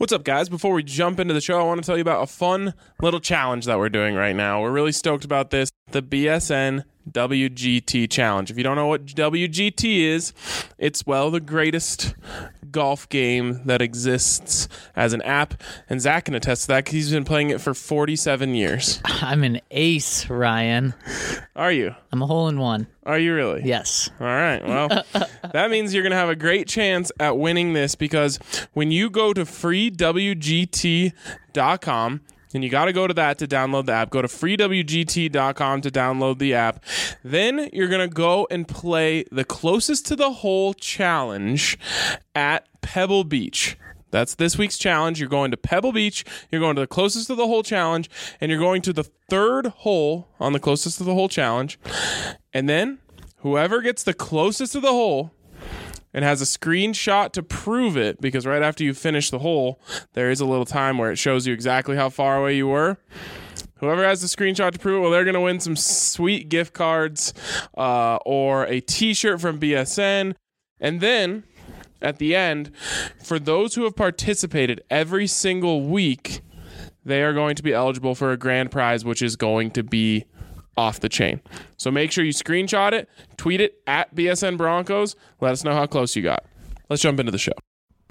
What's up, guys? Before we jump into the show, I want to tell you about a fun little challenge that we're doing right now. We're really stoked about this, the BSN WGT Challenge. If you don't know what WGT is, it's, well, the greatest golf game that exists as an app. And Zach can attest to that because he's been playing it for 47 years. I'm an ace, Ryan. Are you? I'm a hole-in-one. Are you really? Yes. All right. Well, that means you're going to have a great chance at winning this because when you go to freewgt.com, and you got to go to that to download the app. Go to freewgt.com to download the app. Then you're going to go and play the closest to the hole challenge at Pebble Beach. That's this week's challenge. You're going to Pebble Beach. You're going to the closest to the hole challenge. And you're going to the third hole on the closest to the hole challenge. And then whoever gets the closest to the hole and has a screenshot to prove it, because right after you finish the hole, there is a little time where it shows you exactly how far away you were. Whoever has the screenshot to prove it, well, they're going to win some sweet gift cards or a T-shirt from BSN. And then, at the end, for those who have participated every single week, they are going to be eligible for a grand prize, which is going to be off the chain. So make sure you screenshot it, tweet it at BSN Broncos. Let us know how close you got. Let's jump into the show.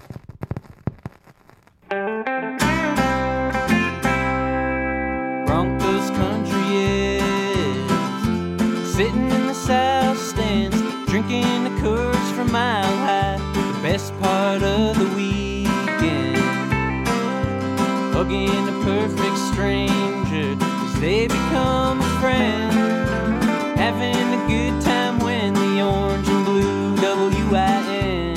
Broncos country is sitting in the south stands, drinking the Coors from Mile High. The best part of the weekend, hugging a perfect stranger as they become a friend, having a good time when the orange and blue WIN,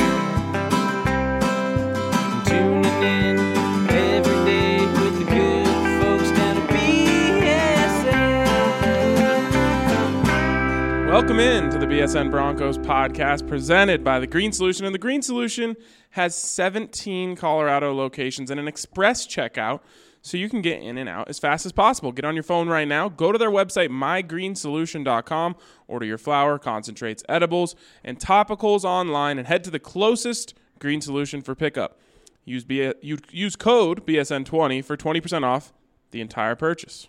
tuning in every day with the good folks down at BSN. Welcome in to the BSN Broncos podcast presented by The Green Solution. And The Green Solution has 17 Colorado locations and an express checkout, so you can get in and out as fast as possible. Get on your phone right now. Go to their website, mygreensolution.com. Order your flour, concentrates, edibles, and topicals online, and head to the closest Green Solution for pickup. Use code BSN20 for 20% off the entire purchase.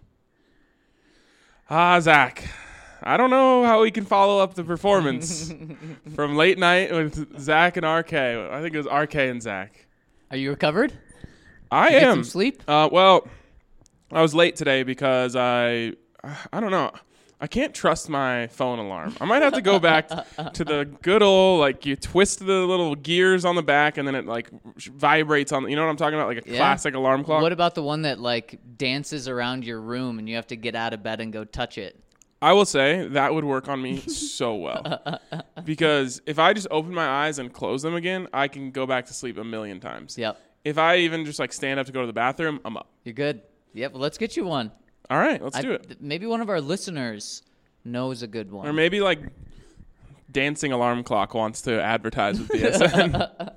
Zach, I don't know how we can follow up the performance from late night with Zach and RK. I think it was RK and Zach. Are you recovered? I Did you am. get some sleep? Well, I was late today because I don't know. I can't trust my phone alarm. I might have to go back to the good old, like, you twist the little gears on the back and then it, like, vibrates on, you know what I'm talking about? Like a classic alarm clock. What about the one that, like, dances around your room and you have to get out of bed and go touch it? I will say that would work on me so well. Because if I just open my eyes and close them again, I can go back to sleep a million times. Yep. If I even just, like, stand up to go to the bathroom, I'm up. You're good. Yep, well, let's get you one. All right, let's do it. Maybe one of our listeners knows a good one. Or maybe, like, Dancing Alarm Clock wants to advertise with BSN.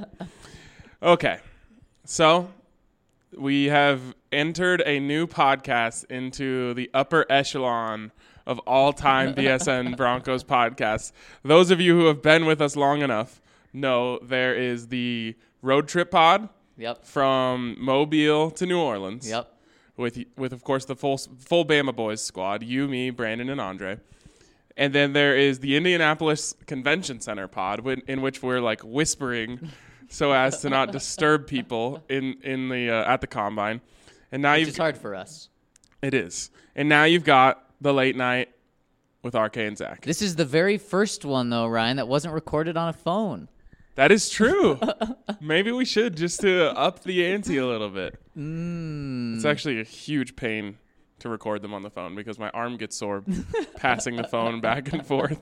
Okay, so we have entered a new podcast into the upper echelon of all-time BSN Broncos podcasts. Those of you who have been with us long enough know there is the Road Trip Pod. Yep. From Mobile to New Orleans. Yep. With of course the full Bama Boys squad, you, me, Brandon, and Andre. And then there is the Indianapolis Convention Center pod, in which we're like whispering so as to not disturb people in the at the combine. And now It's hard for us. It is. And now you've got the late night with RK and Zach. This is the very first one, though, Ryan, that wasn't recorded on a phone. That is true. Maybe we should, just to up the ante a little bit. It's actually a huge pain to record them on the phone because my arm gets sore passing the phone back and forth.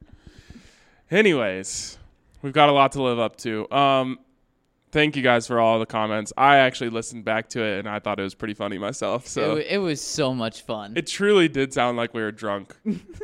Anyways, we've got a lot to live up to. Thank you guys for all the comments. I actually listened back to it, and I thought it was pretty funny myself. So It was so much fun. it truly did sound like we were drunk.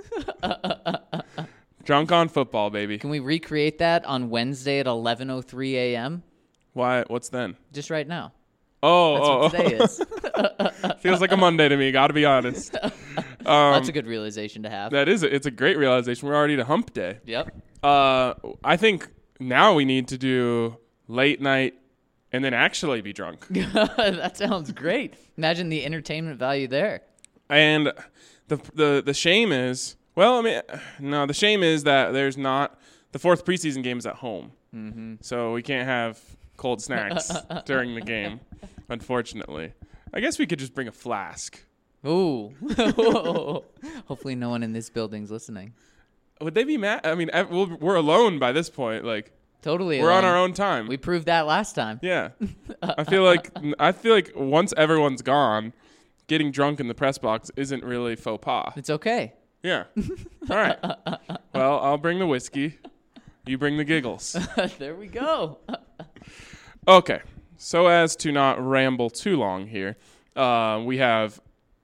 Drunk on football, baby. Can we recreate that on Wednesday at 11:03 a.m.? Why? What's then? Just right now. That's What today is. Feels like a Monday to me, gotta be honest. That's a good realization to have. It's a great realization. We're already to hump day. Yep. I think now we need to do late night and then actually be drunk. That sounds great. Imagine the entertainment value there. And the shame is, the shame is that there's not, the fourth preseason game is at home. Mm-hmm. So we can't have cold snacks during the game, unfortunately. I guess we could just bring a flask. Ooh. Hopefully no one in this building's listening. Would they be mad? I mean, we're alone by this point. Like, totally we're alone. on our own time. We proved that last time. Yeah. I feel like once everyone's gone, getting drunk in the press box isn't really faux pas. It's okay. Yeah. All right. Well, I'll bring the whiskey. You bring the giggles. There we go. Okay. So as to not ramble too long here, we have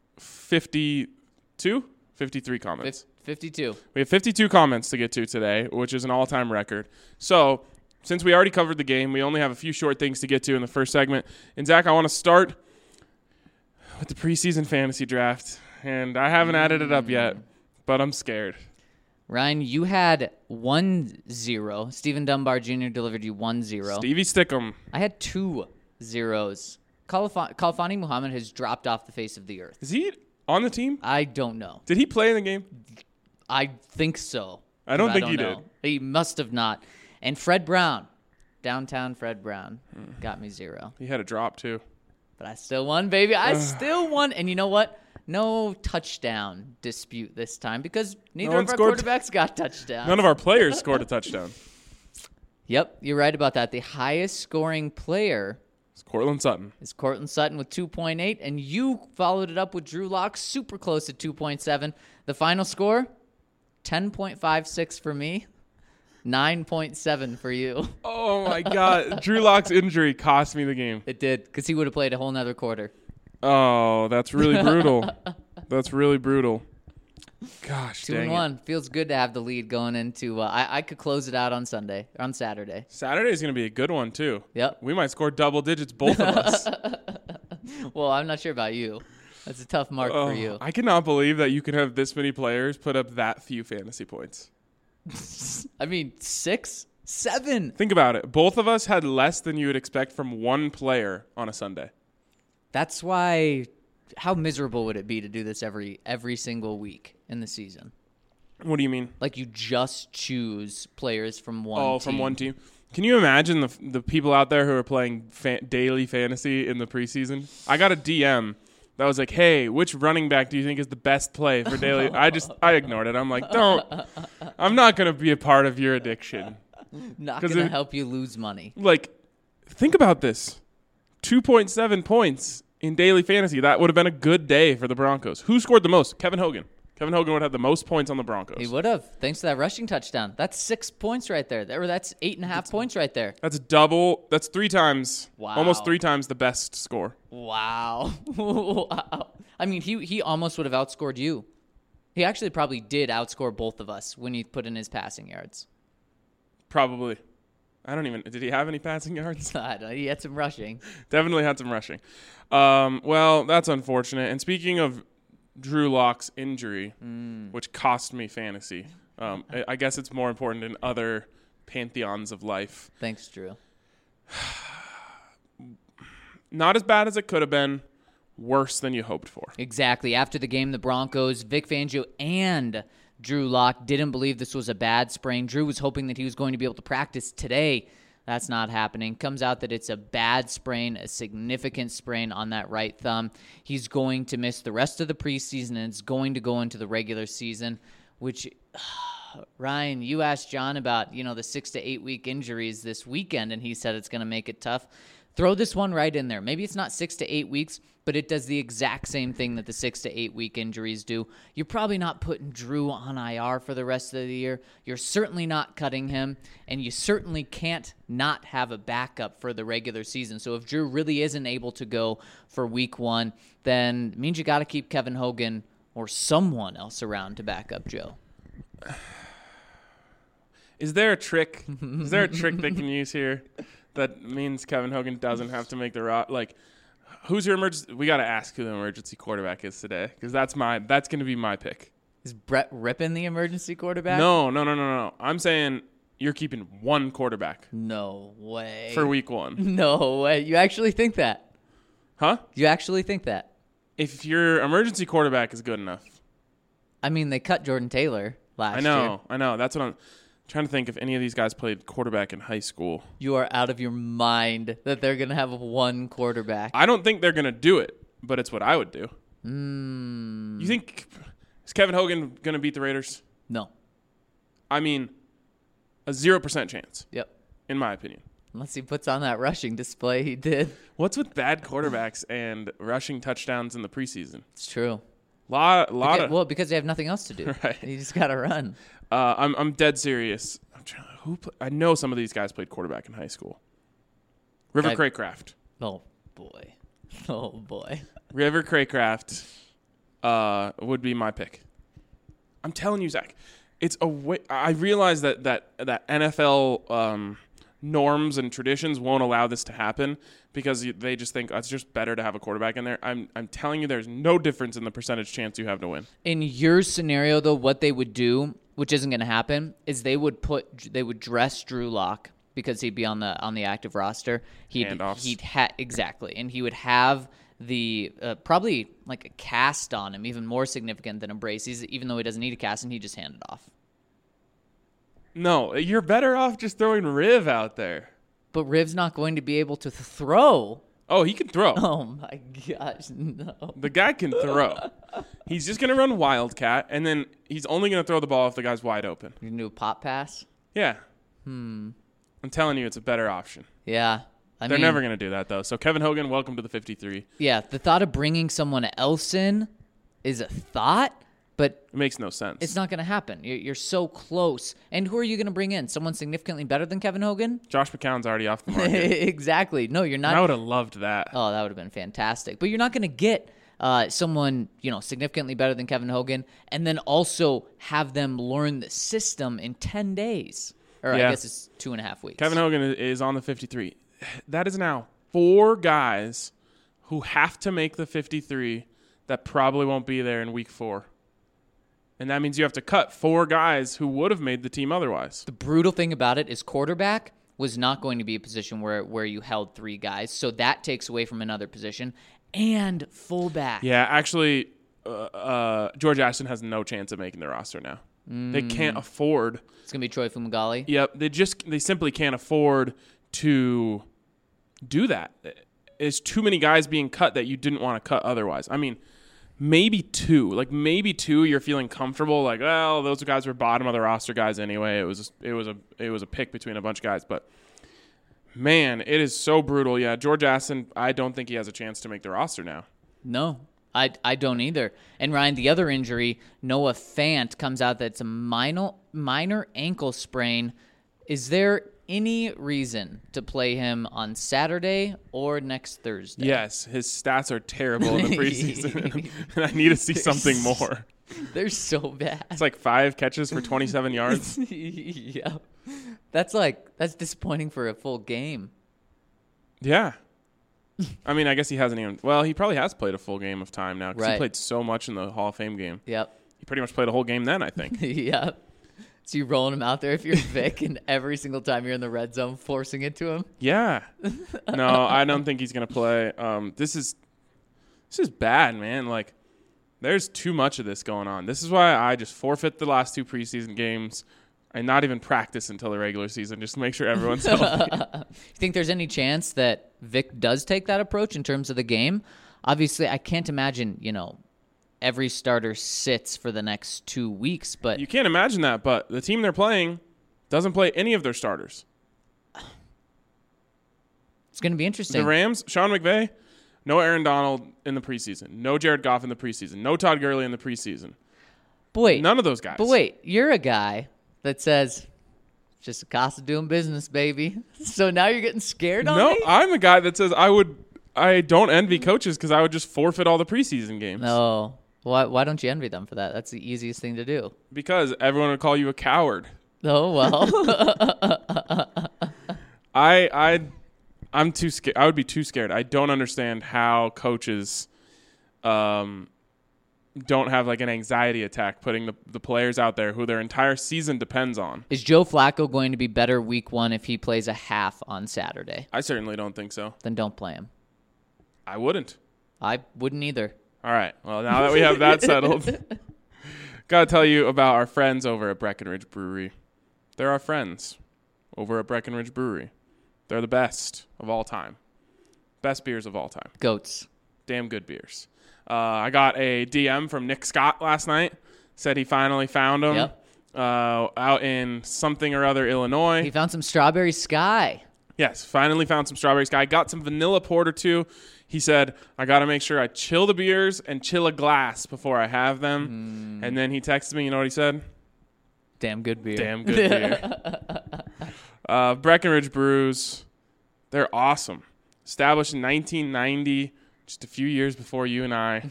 53 comments. 52. We have 52 comments to get to today, which is an all-time record. So since we already covered the game, we only have a few short things to get to in the first segment. And, Zach, I want to start with the preseason fantasy draft. And I haven't added it up yet, but I'm scared. Ryan, you had 1-0. Stephen Dunbar Jr. delivered you 1-0. Stevie Stickum. I had 2 zeros. Khalfani Muhammad has dropped off the face of the earth. Is he on the team? I don't know. Did he play in the game? I think so. I don't think he did. He must have not. And Fred Brown, downtown Fred Brown, got me 0. He had a drop, too. But I still won, baby. I still won. And you know what? No touchdown dispute this time because neither of our quarterbacks got touchdowns. None of our players scored a touchdown. Yep, you're right about that. The highest scoring player It's Courtland Sutton. is Courtland Sutton with 2.8, and you followed it up with Drew Lock, super close at 2.7. The final score, 10.56 for me, 9.7 for you. Oh, my God. Drew Lock's injury cost me the game. It did, because he would have played a whole nother quarter. Oh, that's really brutal. That's really brutal. Gosh, 2-1. Feels good to have the lead going into. I could close it out on Saturday. Saturday's going to be a good one, too. Yep. We might score double digits, both of us. Well, I'm not sure about you. That's a tough mark for you. I cannot believe that you can have this many players put up that few fantasy points. I mean, 6, 7. Think about it. Both of us had less than you would expect from one player on a Sunday. That's why. How miserable would it be to do this every single week in the season? What do you mean? Like you just choose players from one team. Oh, from one team. Can you imagine the people out there who are playing daily fantasy in the preseason? I got a DM that was like, hey, which running back do you think is the best play for daily? I ignored it. I'm like, I'm not going to be a part of your addiction. Not going to help you lose money. Like, think about this. 2.7 points in daily fantasy. That would have been a good day for the Broncos. Who scored the most? Kevin Hogan. Kevin Hogan would have the most points on the Broncos. He would have, thanks to that rushing touchdown. That's 6 points right there. Or that's 8.5 points right there. That's double. That's 3 times. Wow. Almost 3 times the best score. Wow. Wow. I mean, he almost would have outscored you. He actually probably did outscore both of us when you put in his passing yards. Probably. Did he have any passing yards? I don't know. He had some rushing. Definitely had some rushing. Well, that's unfortunate. And speaking of Drew Lock's injury, which cost me fantasy, I guess it's more important in other pantheons of life. Thanks, Drew. Not as bad as it could have been. Worse than you hoped for. Exactly. After the game, the Broncos, Vic Fangio, and Drew Lock didn't believe this was a bad sprain. Drew was hoping that he was going to be able to practice today. That's not happening. Comes out that it's a bad sprain, a significant sprain on that right thumb. He's going to miss the rest of the preseason, and it's going to go into the regular season, which, Ryan, you asked John about, the 6 to 8 week injuries this weekend, and he said it's going to make it tough. Throw this one right in there. Maybe it's not 6 to 8 weeks, but it does the exact same thing that the 6 to 8 week injuries do. You're probably not putting Drew on IR for the rest of the year. You're certainly not cutting him, and you certainly can't not have a backup for the regular season. So if Drew really isn't able to go for week 1, then it means you got to keep Kevin Hogan or someone else around to back up Joe. Is there a trick? Is there a trick they can use here that means Kevin Hogan doesn't have to make the who's your emergency? We got to ask who the emergency quarterback is today because that's going to be my pick. Is Brett Rippon the emergency quarterback? No. I'm saying you're keeping one quarterback No way. for week 1. No way. You actually think that? Huh? You actually think that? If your emergency quarterback is good enough. I mean, they cut Jordan Taylor last year. I know. That's what I'm trying to think if any of these guys played quarterback in high school. You are out of your mind that they're going to have one quarterback. I don't think they're going to do it, but it's what I would do. You think is Kevin Hogan going to beat the Raiders? No. I mean, a 0% chance, Yep. in my opinion. Unless he puts on that rushing display he did. What's with bad quarterbacks and rushing touchdowns in the preseason? It's true. Because they have nothing else to do. Right. You just got to run. I'm dead serious. I know some of these guys played quarterback in high school. River Craycraft. Oh, boy. Oh, boy. River Craycraft would be my pick. I'm telling you, Zach. It's a way. I realize that NFL norms and traditions won't allow this to happen because they just think it's just better to have a quarterback in there. I'm telling you, there's no difference in the percentage chance you have to win. In your scenario, though, what they would do, which isn't going to happen, is they would dress Drew Lock because he'd be on the active roster. Exactly, and he would have the probably like a cast on him, even more significant than a brace. Even though he doesn't need a cast, and he just hand it off. No, you're better off just throwing Riv out there. But Riv's not going to be able to throw. Oh, he can throw. Oh my gosh, no. The guy can throw. He's just going to run Wildcat, and then he's only going to throw the ball if the guy's wide open. You can do a pop pass? Yeah. I'm telling you, it's a better option. Yeah. They're never going to do that, though. So, Kevin Hogan, welcome to the 53. Yeah, the thought of bringing someone else in is a thought, but it makes no sense. It's not going to happen. You're so close. And who are you going to bring in? Someone significantly better than Kevin Hogan? Josh McCown's already off the market. Exactly. No, you're not. I would have loved that. Oh, that would have been fantastic. But you're not going to get someone, significantly better than Kevin Hogan and then also have them learn the system in 10 days. Or I guess it's 2.5 weeks. Kevin Hogan is on the 53. That is now 4 guys who have to make the 53 that probably won't be there in week 4. And that means you have to cut 4 guys who would have made the team otherwise. The brutal thing about it is quarterback was not going to be a position where you held 3 guys. So that takes away from another position. And fullback. Yeah, actually, George Ashton has no chance of making the roster now. They can't afford. It's going to be Troy Fumagalli. Yep, they simply can't afford to do that. There's too many guys being cut that you didn't want to cut otherwise. I mean, maybe 2. Like maybe 2 you're feeling comfortable like, well, those guys were bottom of the roster guys anyway. It was a pick between a bunch of guys, but man, it is so brutal. Yeah, George Aston, I don't think he has a chance to make the roster now. No. I don't either. And Ryan, the other injury, Noah Fant comes out that it's a minor ankle sprain. Is there any reason to play him on Saturday or next Thursday? Yes, his stats are terrible in the preseason, and I need to see something more. They're so bad. It's like 5 catches for 27 yards. Yeah, that's disappointing for a full game. Yeah. I mean, I guess he hasn't even. Well, he probably has played a full game of time now because he played so much in the Hall of Fame game. Yep. He pretty much played a whole game then, I think. Yep. So you rolling him out there if you're Vic, and every single time you're in the red zone, forcing it to him. Yeah. No, I don't think he's gonna play. This is bad, man. Like, there's too much of this going on. This is why I just forfeit the last 2 preseason games and not even practice until the regular season, just to make sure everyone's healthy. You think there's any chance that Vic does take that approach in terms of the game? Obviously, I can't imagine, every starter sits for the next 2 weeks, but you can't imagine that, but the team they're playing doesn't play any of their starters. It's going to be interesting. The Rams, Sean McVay, no Aaron Donald in the preseason, no Jared Goff in the preseason, no Todd Gurley in the preseason. Wait, none of those guys. But wait, you're a guy that says, just a cost of doing business, baby. So now you're getting scared on me? No, I'm a guy that says I don't envy coaches because I would just forfeit all the preseason games. No. Why don't you envy them for that? That's the easiest thing to do. Because everyone would call you a coward. Oh, well. I'm too scared. I would be too scared. I don't understand how coaches don't have like an anxiety attack putting the players out there who their entire season depends on. Is Joe Flacco going to be better week 1 if he plays a half on Saturday? I certainly don't think so. Then don't play him. I wouldn't. I wouldn't either. All right. Well, now that we have that settled, got to tell you about our friends over at Breckenridge Brewery. They're our friends over at Breckenridge Brewery. They're the best of all time. Best beers of all time. Goats. Damn good beers. I got a DM from Nick Scott last night. Said he finally found them. Yep. Out in something or other, Illinois. He found some Strawberry Sky. Yes, finally found some Strawberry Sky. Got some vanilla porter too. He said, I got to make sure I chill the beers and chill a glass before I have them. And then he texted me. You know what he said? Damn good beer. Damn good beer. Breckenridge Brews, they're awesome. Established in 1990, just a few years before you and I.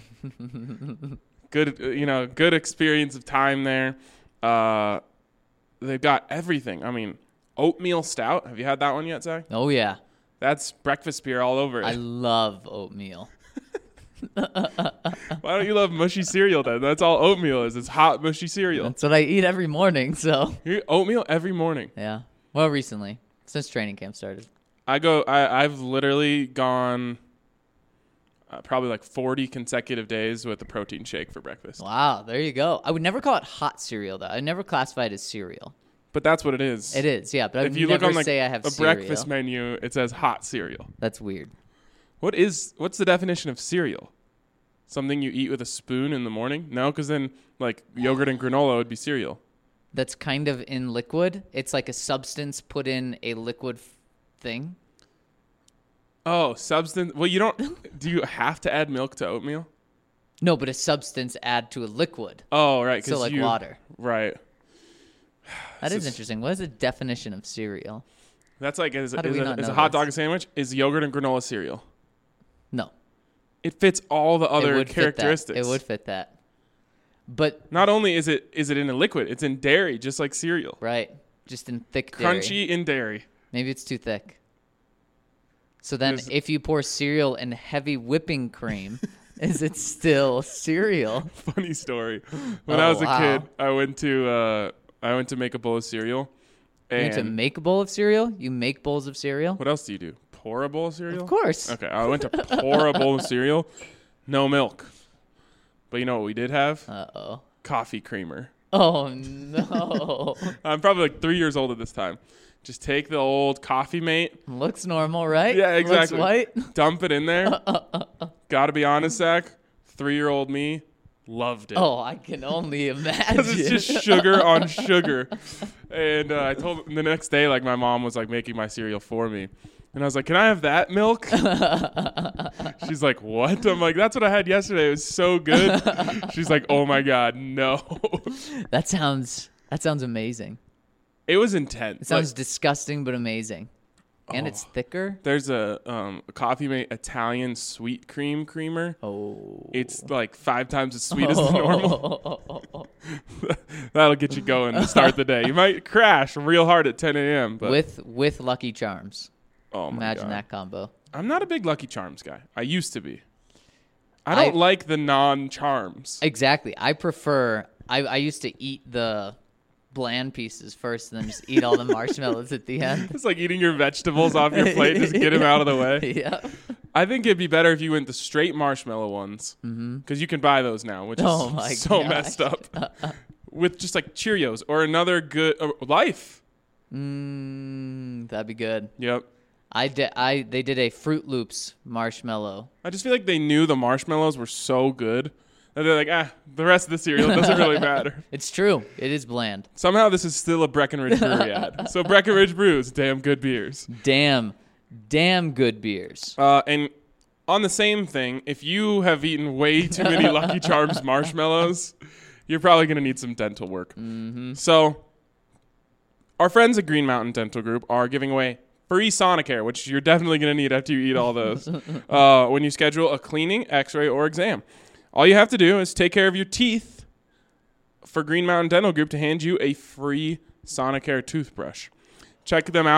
Good experience of time there. They've got everything. I mean, oatmeal stout. Have you had that one yet, Zach? Oh, yeah. That's breakfast beer all over it. I love oatmeal. Why don't you love mushy cereal then? That's all oatmeal is. It's hot, mushy cereal. That's what I eat every morning, so. You eat oatmeal every morning. Yeah. Well, recently, since training camp started. I've literally gone probably like 40 consecutive days with a protein shake for breakfast. Wow, there you go. I would never call it hot cereal, though. I never classify it as cereal. But that's what it is. It is, yeah. But if you never look on say I have a cereal. breakfast menu, it says hot cereal. That's weird. What's the definition of cereal? Something you eat with a spoon in the morning? No, because then like yogurt and granola would be cereal. That's kind of in liquid. It's like a substance put in a liquid thing. Oh, substance. Well, you don't. Do you have to add milk to oatmeal? No, but a substance add to a liquid. Oh, right. So like water. Right. That is interesting. What is the definition of cereal? That's like, is How do we not a know hot this? dog a sandwich? Is yogurt and granola cereal? No. It fits all the It other would fit that. characteristics. It would fit that. But Not only is it in a liquid, it's in dairy, just like cereal. right, just in thick dairy. Crunchy in dairy. Maybe it's too thick. So then if you pour cereal in heavy whipping cream, is it still cereal? Funny story. When I was a wow. kid, I went to make a bowl of cereal. You went to And make a bowl of cereal? You make bowls of cereal? what else do you do? Pour a bowl of cereal? Of course. Okay, I went to pour a bowl of cereal. No milk. But you know what we did have? Uh-oh. Coffee creamer. Oh, no. I'm probably like 3 years old at this time. Just take the old Coffee Mate, Looks normal, right? Yeah, exactly. Looks white. dump it in there. Gotta be honest, Zach. 3-year-old me loved it. Oh, I can only imagine. Because it's just sugar on sugar. And I told the next day, like my mom was like making my cereal for me. And I was like, can I have that milk? She's like, what? I'm like, that's what I had yesterday. It was so good. She's like, oh my God, no. That sounds amazing. It was intense. It sounds disgusting, but amazing. And it's thicker. There's a Coffee Mate Italian sweet cream creamer. Oh. It's like 5 times as sweet as the normal. That'll get you going to start the day. You might crash real hard at 10 a.m. But With Lucky Charms. oh my Imagine God. that combo. I'm not a big Lucky Charms guy. I used to be. I don't like the non-charms. Exactly. I prefer. I used to eat the bland pieces first, and then just eat all the marshmallows at the end. It's like eating your vegetables off your plate. Just get them out of the way. Yeah. I think it'd be better if you went the straight marshmallow ones. Because you can buy those now, which Oh is my so gosh. messed up. With just like Cheerios or another good Life. That'd be good. Yep. They did a Fruit Loops marshmallow. I just feel like they knew the marshmallows were so good that they're like, the rest of the cereal doesn't really matter. It's true. It is bland. Somehow this is still a Breckenridge Brewery ad. So Breckenridge Brews, damn good beers. Damn good beers. And on the same thing, if you have eaten way too many Lucky Charms marshmallows, you're probably going to need some dental work. So our friends at Green Mountain Dental Group are giving away free Sonicare, which you're definitely going to need after you eat all those, when you schedule a cleaning, x-ray, or exam. All you have to do is take care of your teeth for Green Mountain Dental Group to hand you a free Sonicare toothbrush. Check them out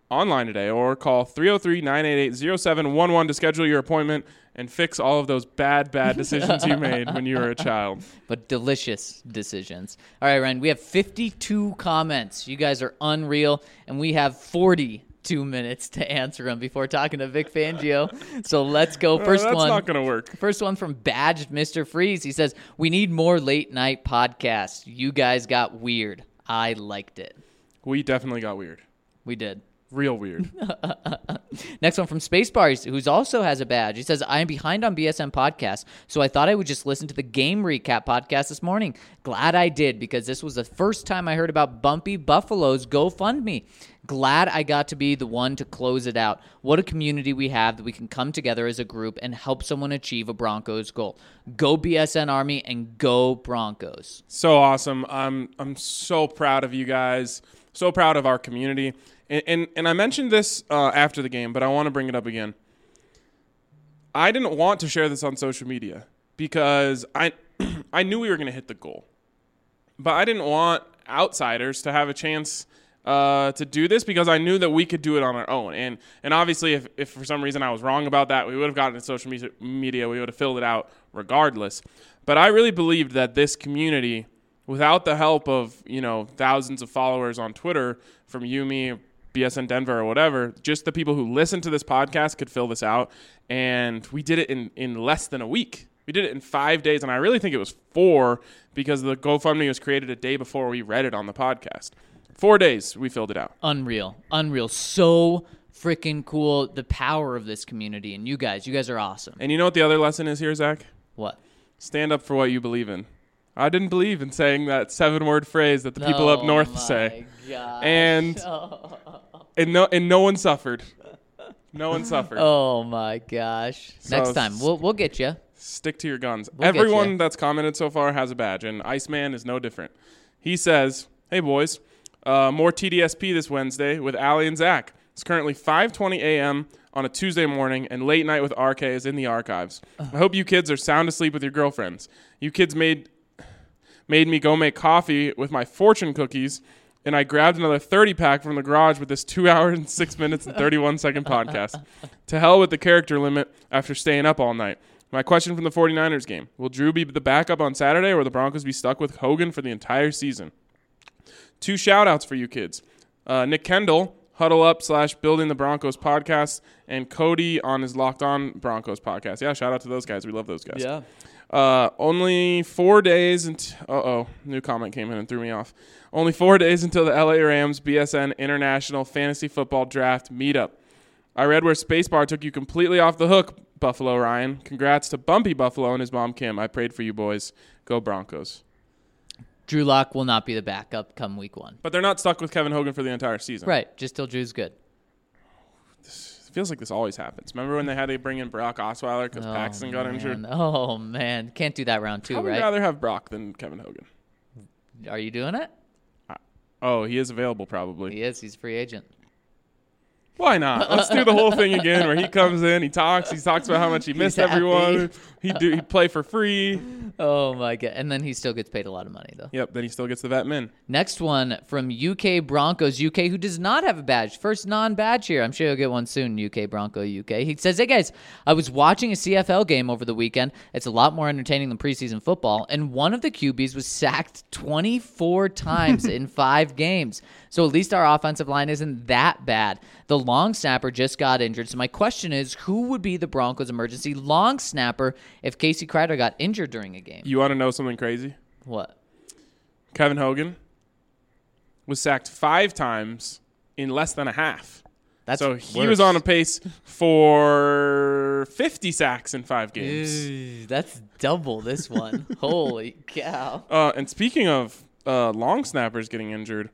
online today or call 303-988-0711 to schedule your appointment and fix all of those bad decisions you made when you were a child. But delicious decisions. All right, Ryan, we have 52 comments. You guys are unreal, and we have 42 minutes to answer them before talking to Vic Fangio. So let's go. First That's one. not going to work. First one from Badged Mr. Freeze. He says, we need more late night podcasts. You guys got weird. I liked it. We definitely got weird. We did. Real weird. Next one from Spacebar, who's also has a badge. He says, I am behind on BSN podcasts, so I thought I would just listen to the game recap podcast this morning. Glad I did, because this was the first time I heard about Bumpy Buffalo's GoFundMe. Glad I got to be the one to close it out. What a community we have that we can come together as a group and help someone achieve a Broncos goal. Go BSN Army and go Broncos. So awesome. I'm so proud of you guys. So proud of our community. And I mentioned this after the game, but I want to bring it up again. I didn't want to share this on social media because I knew we were going to hit the goal. But I didn't want outsiders to have a chance to do this because I knew that we could do it on our own. And obviously, if for some reason I was wrong about that, we would have gotten to social media. We would have filled it out regardless. But I really believed that this community, without the help of, thousands of followers on Twitter from you, me, BSN Denver or whatever, just the people who listen to this podcast could fill this out. And we did it in less than a week. We did it in 5 days, and I really think it was 4 because the GoFundMe was created a day before we read it on the podcast. 4 days, we filled it out. Unreal. So freaking cool. The power of this community, and you guys are awesome. And you know what the other lesson is here, Zach? What? Stand up for what you believe in. I didn't believe in saying that 7-word phrase that the people up north say. Gosh. And no one suffered. No one suffered. Oh my gosh. So Next time we'll get you. Stick to your guns. We'll get Everyone ya. that's commented so far has a badge, and Iceman is no different. He says, hey boys, more TDSP this Wednesday with Allie and Zach. It's currently 5:20 a.m. on a Tuesday morning, and Late Night with RK is in the archives. I hope you kids are sound asleep with your girlfriends. You kids made me go make coffee with my fortune cookies, and I grabbed another 30-pack from the garage with this 2 hours and 6 minutes and 31-second podcast. To hell with the character limit after staying up all night. My question from the 49ers game. Will Drew be the backup on Saturday, or will the Broncos be stuck with Hogan for the entire season? 2 shout-outs for you kids. Nick Kendall, Huddle Up / Building the Broncos podcast, and Cody on his Locked On Broncos podcast. Yeah, shout out to those guys. We love those guys. Yeah. Only 4 days until... new comment came in and threw me off. Only 4 days until the LA Rams BSN International Fantasy Football Draft meetup. I read where Spacebar took you completely off the hook, Buffalo Ryan. Congrats to Bumpy Buffalo and his mom, Kim. I prayed for you boys. Go Broncos. Drew Lock will not be the backup come week 1. But they're not stuck with Kevin Hogan for the entire season. Right, just till Drew's good. It feels like this always happens. Remember when they had to bring in Brock Osweiler because Paxton got injured? Oh, man. Can't do that round 2, I would right? rather have Brock than Kevin Hogan. Are you doing it? He is available probably. He is. He's a free agent. Why not? Let's do the whole thing again where he comes in, he talks about how much he missed everyone. He'd play for free. Oh, my God. And then he still gets paid a lot of money, though. Yep, then he still gets the vet min. Next one from UK Broncos UK, who does not have a badge. First non-badge here. I'm sure he'll get one soon, UK Bronco UK. He says, hey, guys, I was watching a CFL game over the weekend. It's a lot more entertaining than preseason football, and one of the QBs was sacked 24 times in 5 games. So at least our offensive line isn't that bad. The long snapper just got injured. So my question is, who would be the Broncos' emergency long snapper if Casey Kreider got injured during a game? You want to know something crazy? What? Kevin Hogan was sacked 5 times in less than a half. So he was on a pace for 50 sacks in 5 games. That's double this one. Holy cow. And speaking of long snappers getting injured,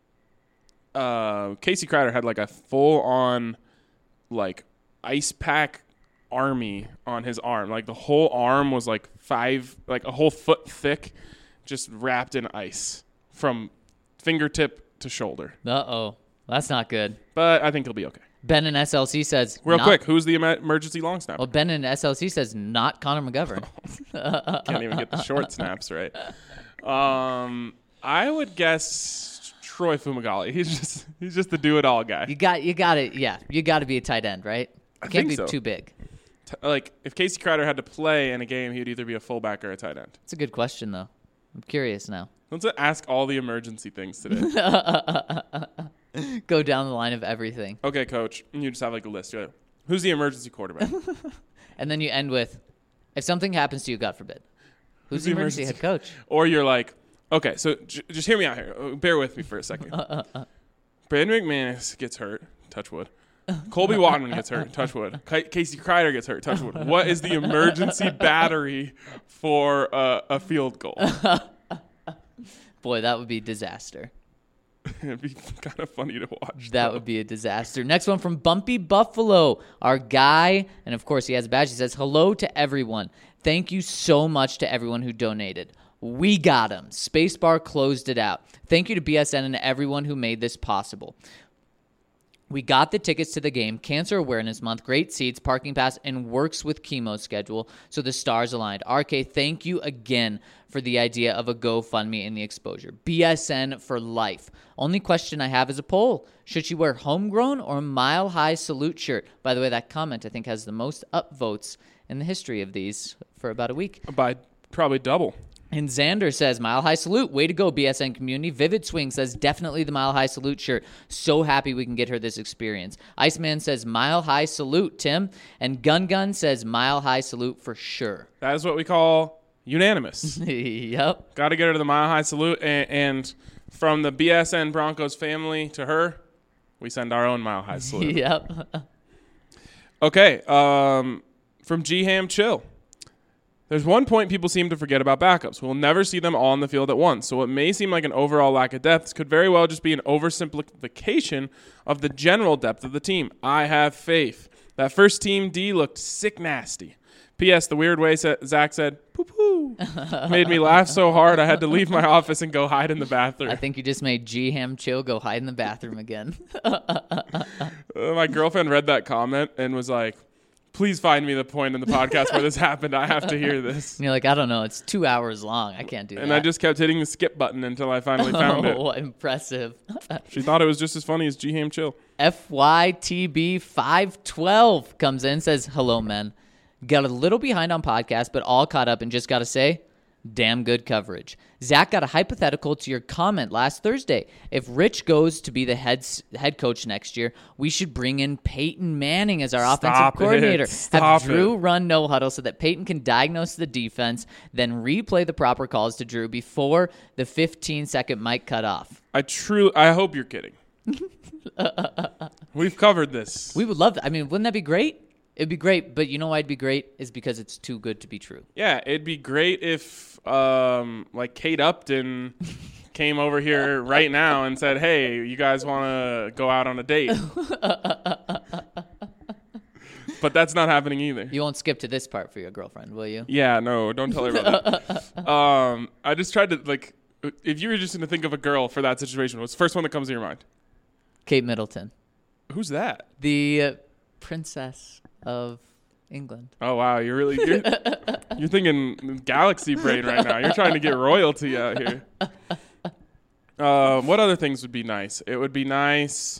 Casey Kreider had like a full-on ice pack army on his arm. Like the whole arm was like a whole foot thick, just wrapped in ice from fingertip to shoulder. Uh-oh. That's not good. But I think he'll be okay. Ben in SLC says... Real quick, who's the emergency long snapper? Well, Ben in SLC says not Connor McGovern. Can't even get the short snaps right. I would guess Troy Fumagalli. He's just the do-it-all guy. You got to be a tight end, right? I Can't think be so. too big. Like, if Casey Kreider had to play in a game, he'd either be a fullback or a tight end. It's a good question, though. I'm curious now. Let's ask all the emergency things today. Go down the line of everything. Okay, Coach. You just have like a list. You're like, who's the emergency quarterback? And then you end with, if something happens to you, God forbid, who's the emergency head coach? Or you're like, okay, so just hear me out here. Bear with me for a second. Brandon McManus gets hurt. Touch wood. Colby Wadman gets hurt. Touch wood. Casey Kreider gets hurt. Touch wood. What is the emergency battery for a field goal? Boy, that would be disaster. It'd be kind of funny to watch. That would be a disaster. Next one from Bumpy Buffalo, our guy. And, of course, he has a badge. He says, hello to everyone. Thank you so much to everyone who donated. We got him. Spacebar closed it out. Thank you to BSN and everyone who made this possible. We got the tickets to the game, Cancer Awareness Month, great seats, parking pass, and works with chemo schedule, so the stars aligned. RK, thank you again for the idea of a GoFundMe and the exposure. BSN for life. Only question I have is a poll. Should she wear homegrown or Mile High Salute shirt? By the way, that comment, I think, has the most upvotes in the history of these for about a week. By probably double. And Xander says, Mile High Salute. Way to go, BSN community. Vivid Swing says, definitely the Mile High Salute shirt. So happy we can get her this experience. Iceman says, Mile High Salute, Tim. And Gun says, Mile High Salute for sure. That is what we call unanimous. Yep. Got to get her to the Mile High Salute. And from the BSN Broncos family to her, we send our own Mile High Salute. Yep. Okay. From G-Ham Chill. There's one point people seem to forget about backups. We'll never see them all on the field at once. So what may seem like an overall lack of depth could very well just be an oversimplification of the general depth of the team. I have faith. That first team D looked sick nasty. P.S. The weird way Zach said, poo-poo, made me laugh so hard I had to leave my office and go hide in the bathroom. I think you just made G-Ham Chill go hide in the bathroom again. My girlfriend read that comment and was like, please find me the point in the podcast where this happened. I have to hear this. And you're like, I don't know. It's 2 hours long. I can't do that. And I just kept hitting the skip button until I finally found it. Oh, impressive. She thought it was just as funny as G-Ham Chill. FYTB512 comes in and says, hello, men. Got a little behind on podcast, but all caught up and just got to say, damn good coverage. Zach got a hypothetical to your comment last Thursday. If Rich goes to be the head coach next year, we should bring in Peyton Manning as our offensive coordinator. Have Drew run no huddle so that Peyton can diagnose the defense, then replay the proper calls to Drew before the 15-second mic cut off. I hope you're kidding. We've covered this. We would love that. I mean, wouldn't that be great? It'd be great, but you know why it'd be great is because it's too good to be true. Yeah, it'd be great if like Kate Upton came over here right now and said, hey, you guys want to go out on a date? But that's not happening either. You won't skip to this part for your girlfriend, will you? Yeah, no, don't tell her about that. I just tried to, like, if you were just going to think of a girl for that situation, what's the first one that comes to your mind? Kate Middleton. Who's that? The princess of England. Oh, wow. You're thinking galaxy brain right now. You're trying to get royalty out here. What other things would be nice? It would be nice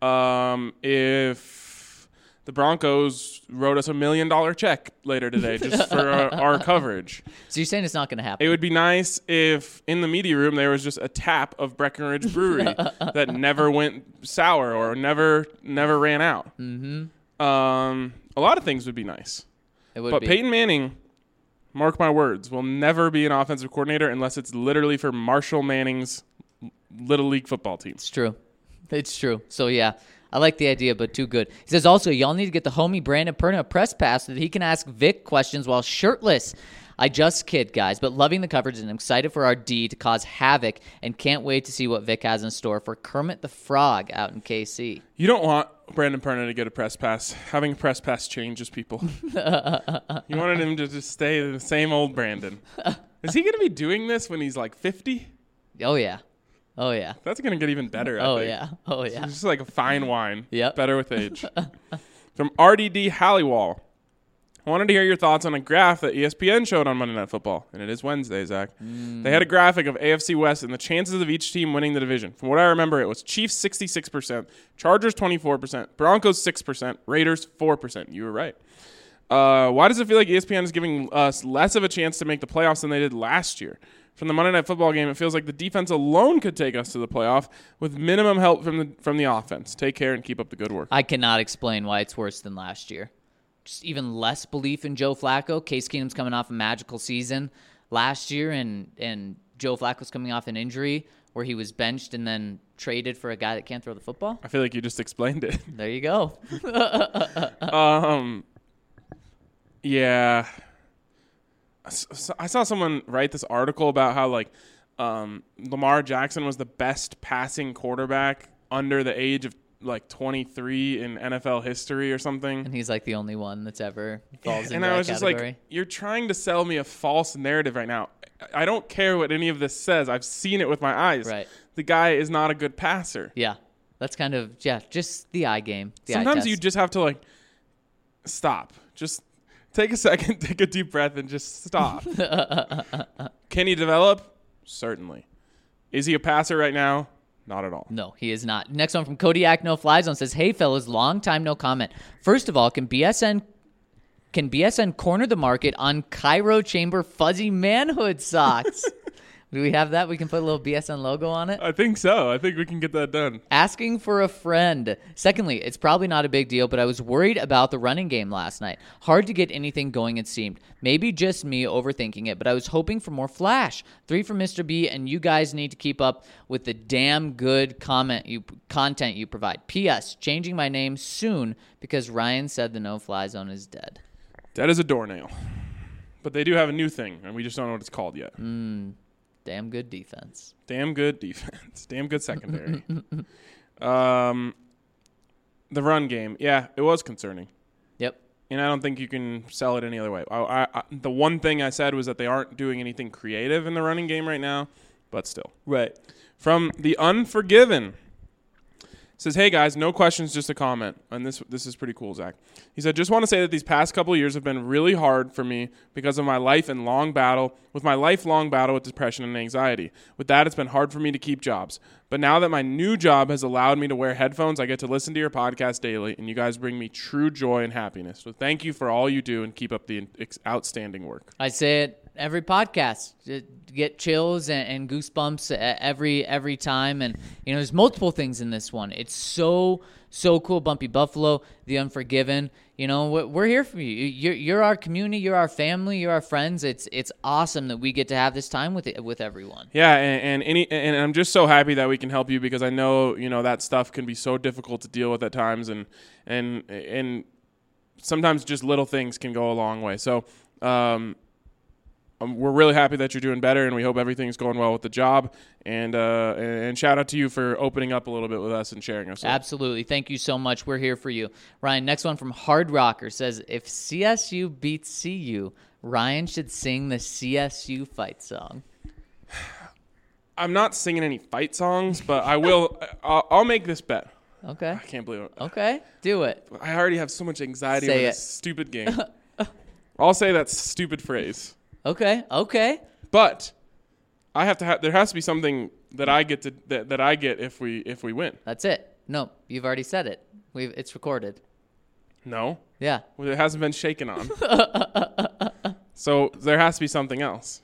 if the Broncos wrote us $1 million check later today just for our coverage. So you're saying it's not going to happen? It would be nice if in the media room there was just a tap of Breckenridge Brewery that never went sour or never ran out. Mm-hmm. A lot of things would be nice. It would but be. Peyton Manning, mark my words, will never be an offensive coordinator unless it's literally for Marshall Manning's Little League football team. It's true. It's true. So, yeah, I like the idea, but too good. He says, also, y'all need to get the homie Brandon Perna a press pass so that he can ask Vic questions while shirtless. I just kid, guys, but loving the coverage and I'm excited for our D to cause havoc and can't wait to see what Vic has in store for Kermit the Frog out in KC. You don't want Brandon Perna to get a press pass. Having a press pass changes people. You wanted him to just stay the same old Brandon. Is he going to be doing this when he's like 50? Oh, yeah. Oh, yeah. That's going to get even better, I think. Yeah. Oh, yeah. It's just like a fine wine. Yep. Better with age. From RDD Halliwall. I wanted to hear your thoughts on a graph that ESPN showed on Monday Night Football, and it is Wednesday, Zach. They had a graphic of AFC West and the chances of each team winning the division. From what I remember, it was Chiefs 66%, Chargers 24%, Broncos 6%, Raiders 4%. You were right. Why does it feel like ESPN is giving us less of a chance to make the playoffs than they did last year? From the Monday Night Football game, it feels like the defense alone could take us to the playoff with minimum help from the offense. Take care and keep up the good work. I cannot explain why it's worse than last year. Just even less belief in Joe Flacco. Case Keenum's coming off a magical season last year, and Joe Flacco's coming off an injury where he was benched and then traded for a guy that can't throw the football. I feel like you just explained it. There you go. Yeah. I saw someone write this article about how Lamar Jackson was the best passing quarterback under the age of 23 in NFL history or something. And he's like the only one that's ever falls into that category. And I was just like, you're trying to sell me a false narrative right now. I don't care what any of this says. I've seen it with my eyes. Right. The guy is not a good passer. Yeah. That's kind of, just the eye game. Sometimes you just have to stop. Just take a second, take a deep breath, and just stop. Can he develop? Certainly. Is he a passer right now? Not at all. No, he is not. Next one from Kodiak No Fly Zone says, "Hey fellas, long time no comment. First of all, can BSN corner the market on Cairo Chamber fuzzy manhood socks?" Do we have that? We can put a little BSN logo on it? I think so. I think we can get that done. Asking for a friend. Secondly, it's probably not a big deal, but I was worried about the running game last night. Hard to get anything going, it seemed. Maybe just me overthinking it, but I was hoping for more flash. 3 from Mr. B, and you guys need to keep up with the damn good content you provide. P.S. Changing my name soon because Ryan said the no-fly zone is dead. Dead as a doornail. But they do have a new thing, and we just don't know what it's called yet. Damn good defense. Damn good defense. Damn good secondary. The run game. Yeah, it was concerning. Yep. And I don't think you can sell it any other way. The one thing I said was that they aren't doing anything creative in the running game right now, but still. Right. From The Unforgiven. Says, "Hey guys, no questions, just a comment." And this is pretty cool, Zach. He said, "Just want to say that these past couple of years have been really hard for me because of my lifelong battle with depression and anxiety. With that, it's been hard for me to keep jobs. But now that my new job has allowed me to wear headphones, I get to listen to your podcast daily, and you guys bring me true joy and happiness. So thank you for all you do and keep up the outstanding work." I say it every podcast. Get chills and goosebumps every time. And, there's multiple things in this one. It's so cool. Bumpy Buffalo, The Unforgiven. We're here for you. You're our community. You're our family. You're our friends. It's awesome that we get to have this time with everyone. Yeah, and I'm just so happy that we can help you because I know that stuff can be so difficult to deal with at times, and sometimes just little things can go a long way. So we're really happy that you're doing better, and we hope everything's going well with the job. And shout out to you for opening up a little bit with us and sharing us. Absolutely. Thank you so much. We're here for you. Ryan, next one from Hard Rocker says, "If CSU beats CU, Ryan should sing the CSU fight song." I'm not singing any fight songs, but I will. I'll make this bet. Okay. I can't believe it. Okay. Do it. I already have so much anxiety Say over it. this stupid game. I'll say that stupid phrase. Okay. But I have to there has to be something that I get that I get if we win. That's it. No, you've already said it. It's recorded. No. Yeah. Well, it hasn't been shaken on. So there has to be something else.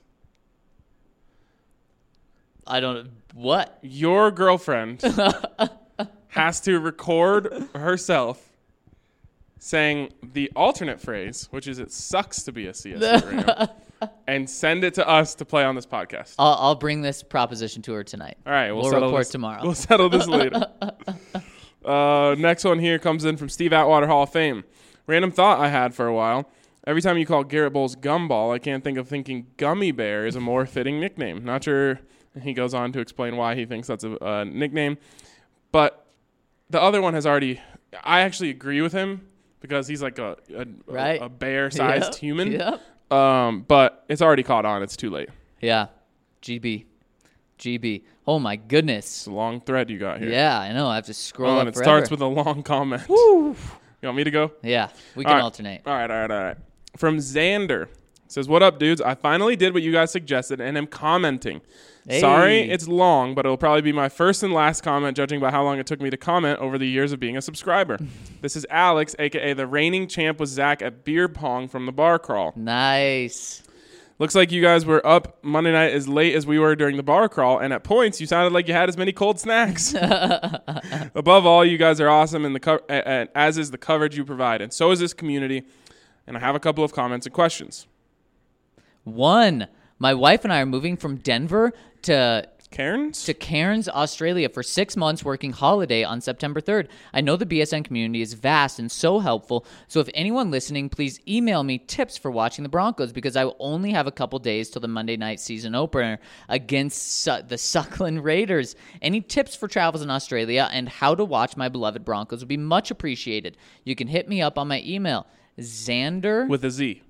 I don't. What? Your girlfriend has to record herself saying the alternate phrase, which is "It sucks to be a CSU Ram," and send it to us to play on this podcast. I'll bring this proposition to her tonight. All right, we'll report tomorrow. We'll settle this later. Next one here comes in from Steve Atwater, Hall of Fame. Random thought I had for a while. Every time you call Garrett Bowles Gumball, I can't think of thinking Gummy Bear is a more fitting nickname. Not sure. He goes on to explain why he thinks that's a nickname. But the other one has already... I actually agree with him because he's like a bear-sized human. Yep. But it's already caught on. It's too late. Yeah. GB. Oh, my goodness. It's a long thread you got here. Yeah, I know. I have to scroll up and it forever. starts with a long comment. Woo. You want me to go? Yeah, we can alternate. All right. from Xander. Says, what up, dudes? I finally did what you guys suggested and am commenting. Hey. Sorry it's long, but it'll probably be my first and last comment, judging by how long it took me to comment over the years of being a subscriber. This is Alex, a.k.a. the reigning champ with Zach at beer pong from the bar crawl. Nice. Looks like you guys were up Monday night as late as we were during the bar crawl, and at points you sounded like you had as many cold snacks. Above all, you guys are awesome, and as is the coverage you provide, and so is this community. And I have a couple of comments and questions. 1. My wife and I are moving from Denver to Cairns, Australia for 6 months working holiday on September 3rd. I know the BSN community is vast and so helpful, so if anyone listening, please email me tips for watching the Broncos because I will only have a couple days till the Monday night season opener against the Suckland Raiders. Any tips for travels in Australia and how to watch my beloved Broncos would be much appreciated. You can hit me up on my email, Xander With a Z.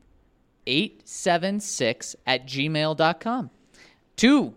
876@gmail.com. 2.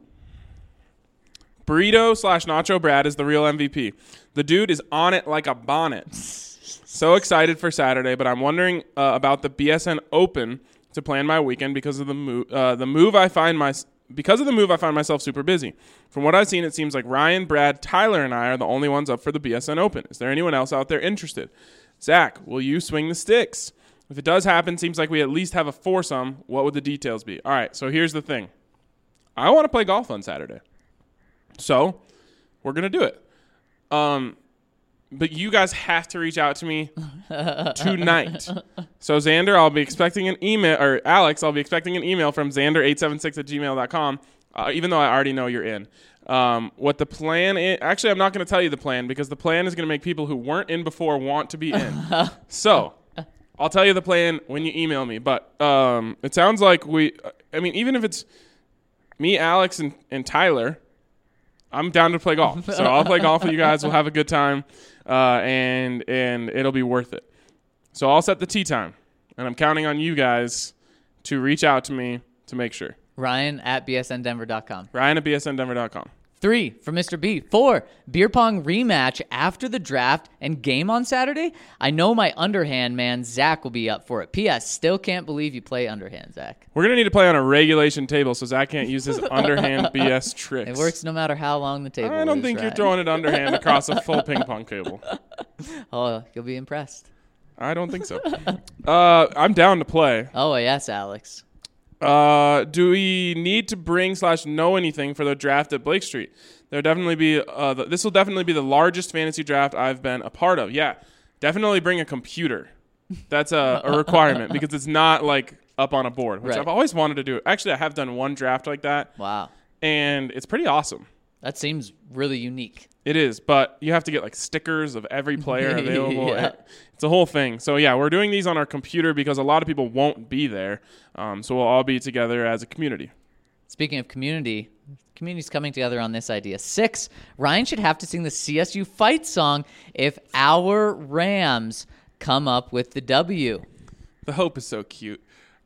Burrito/Nacho Brad is the real MVP. The dude is on it like a bonnet. So excited for Saturday, but I'm wondering about the BSN Open to plan my weekend because of the move. I find myself super busy. From what I've seen, it seems like Ryan, Brad, Tyler, and I are the only ones up for the BSN Open. Is there anyone else out there interested? Zach, will you swing the sticks? If it does happen, seems like we at least have a foursome. What would the details be? All right, so here's the thing. I want to play golf on Saturday. So we're going to do it. But you guys have to reach out to me tonight. So Xander, I'll be expecting an email, or Alex, I'll be expecting an email from Xander876@gmail.com, even though I already know you're in. What the plan is, actually, I'm not going to tell you the plan because the plan is going to make people who weren't in before want to be in. So I'll tell you the plan when you email me. But it sounds like even if it's me, Alex, and Tyler, I'm down to play golf. So I'll play golf with you guys. We'll have a good time, and it'll be worth it. So I'll set the tee time, and I'm counting on you guys to reach out to me to make sure. Ryan@bsndenver.com. Ryan@bsndenver.com. 3, from Mr. B. 4, beer pong rematch after the draft and game on Saturday. I know my underhand man, Zach, will be up for it. P.S. Still can't believe you play underhand, Zach. We're going to need to play on a regulation table so Zach can't use his underhand BS tricks. It works no matter how long the table is. I don't think you're throwing it underhand across a full ping pong table. Oh, you'll be impressed. I don't think so. I'm down to play. Oh, yes, Alex. Do we need to bring/know anything for the draft at Blake Street? This will definitely be the largest fantasy draft I've been a part of. Yeah, definitely bring a computer. That's a requirement because it's not like up on a board, which Right. I've always wanted to do. Actually, I have done one draft like that. Wow. And it's pretty awesome. That seems really unique. It is, but you have to get like stickers of every player available. Yeah. It's a whole thing. So yeah, we're doing these on our computer because a lot of people won't be there. So we'll all be together as a community. Speaking of community's coming together on this idea. 6, Ryan should have to sing the CSU fight song if our Rams come up with the W. The hope is so cute.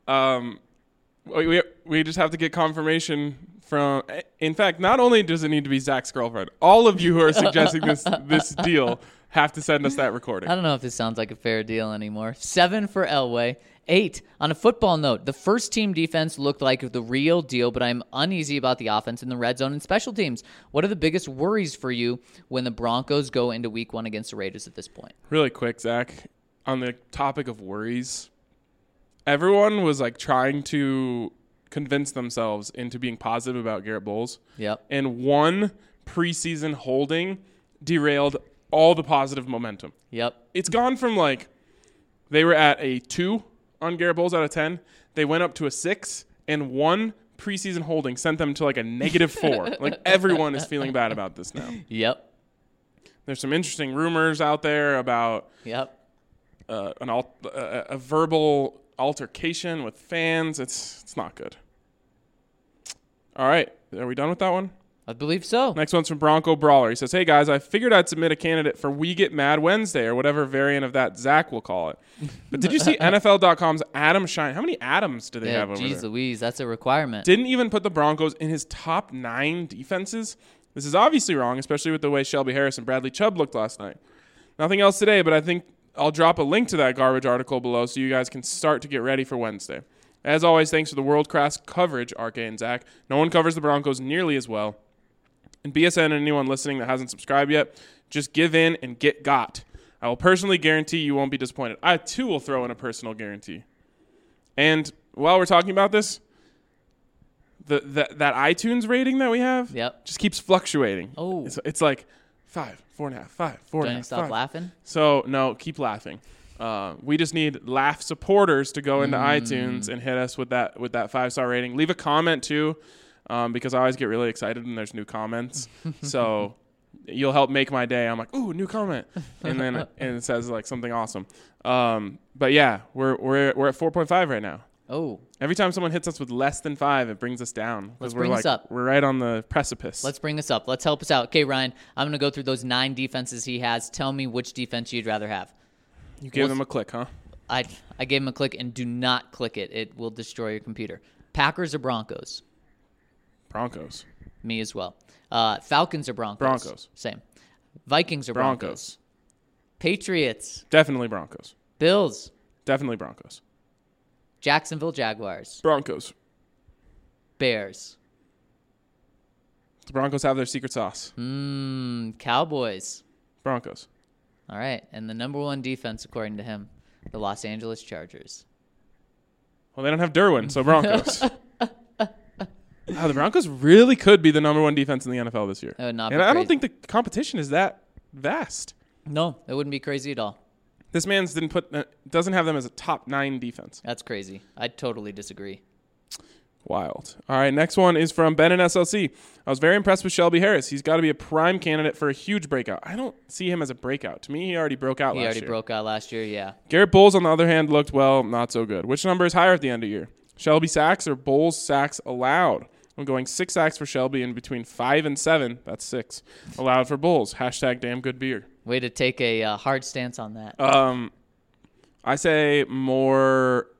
We just have to get confirmation from. In fact, not only does it need to be Zach's girlfriend, all of you who are suggesting this deal have to send us that recording. I don't know if this sounds like a fair deal anymore. 7 for Elway. 8, on a football note, the first team defense looked like the real deal, but I'm uneasy about the offense in the red zone and special teams. What are the biggest worries for you when the Broncos go into week 1 against the Raiders at this point? Really quick, Zach, on the topic of worries, everyone was like trying to convince themselves into being positive about Garrett Bowles. Yep. And one preseason holding derailed all the positive momentum. Yep. It's gone from like they were at a 2 on Garrett Bowles out of 10. They went up to a 6, and one preseason holding sent them to like a -4. Like everyone is feeling bad about this now. Yep. There's some interesting rumors out there about Yep. a verbal altercation with fans. It's not good. All right. Are we done with that one? I believe so. Next one's from Bronco Brawler. He says, hey, guys, I figured I'd submit a candidate for We Get Mad Wednesday or whatever variant of that Zach will call it. But did you see NFL.com's Adam Shine? How many Adams do they have over Geez there? Louise, that's a requirement. Didn't even put the Broncos in his top 9 defenses. This is obviously wrong, especially with the way Shelby Harris and Bradley Chubb looked last night. Nothing else today, but I think I'll drop a link to that garbage article below so you guys can start to get ready for Wednesday. As always, thanks for the world-class coverage, RK and Zach. No one covers the Broncos nearly as well. And BSN and anyone listening that hasn't subscribed yet, just give in and get got. I will personally guarantee you won't be disappointed. I, too, will throw in a personal guarantee. And while we're talking about this, that iTunes rating that we have just keeps fluctuating. Oh. It's like 5, 4.5, 5, 4.5, Don't stop 5. laughing? So, no, keep laughing. We just need laugh supporters to go into iTunes and hit us with that 5-star rating. Leave a comment too, because I always get really excited when there's new comments. So you'll help make my day. I'm like, ooh, new comment, and then it says like something awesome. But yeah, we're at 4.5 right now. Oh. Every time someone hits us with less than 5, it brings us down. Let's bring us up. We're right on the precipice. Let's bring us up. Let's help us out. Okay, Ryan, I'm going to go through those 9 defenses he has. Tell me which defense you'd rather have. You gave them a click, huh? I gave him a click, and do not click it. It will destroy your computer. Packers or Broncos? Broncos. Me as well. Falcons or Broncos? Broncos. Same. Vikings or Broncos? Patriots. Definitely Broncos. Bills. Definitely Broncos. Jacksonville Jaguars. Broncos. Bears. The Broncos have their secret sauce. Cowboys. Broncos. All right. And the number 1 defense, according to him, the Los Angeles Chargers. Well, they don't have Derwin, so Broncos. The Broncos really could be the number 1 defense in the NFL this year. It would not be and I don't crazy. think the competition is that vast. No, it wouldn't be crazy at all. This man's doesn't have them as a top 9 defense. That's crazy. I totally disagree. Wild. All right, next one is from Ben and SLC. I was very impressed with Shelby Harris. He's got to be a prime candidate for a huge breakout. I don't see him as a breakout. To me, he already broke out last year. He already broke out last year, yeah. Garrett Bowles, on the other hand, looked, well, not so good. Which number is higher at the end of the year? Shelby sacks or Bowles sacks allowed? I'm going 6 sacks for Shelby and between 5 and 7, that's 6, allowed for Bowles. Hashtag damn good beer. Way to take a hard stance on that. I say more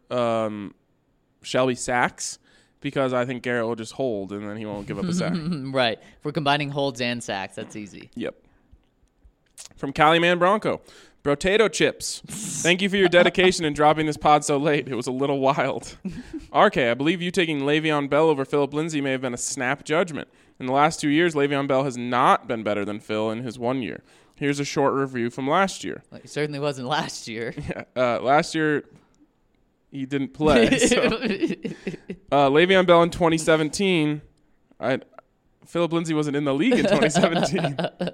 Shelby sacks because I think Garrett will just hold and then he won't give up a sack. Right. If we're combining holds and sacks, that's easy. Yep. From Caliman Bronco. Brotato chips. Thank you for your dedication in dropping this pod so late. It was a little wild. RK, I believe you taking Le'Veon Bell over Phillip Lindsay may have been a snap judgment. In the last 2 years, Le'Veon Bell has not been better than Phil in his 1 year. Here's a short review from last year. Well, it certainly wasn't last year. Last year, he didn't play. So. Le'Veon Bell in 2017. Phillip Lindsay wasn't in the league in 2017.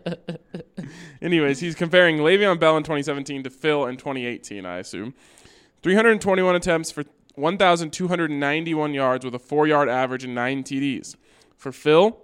Anyways, he's comparing Le'Veon Bell in 2017 to Phil in 2018, I assume. 321 attempts for 1,291 yards with a 4-yard average and 9 TDs. For Phil,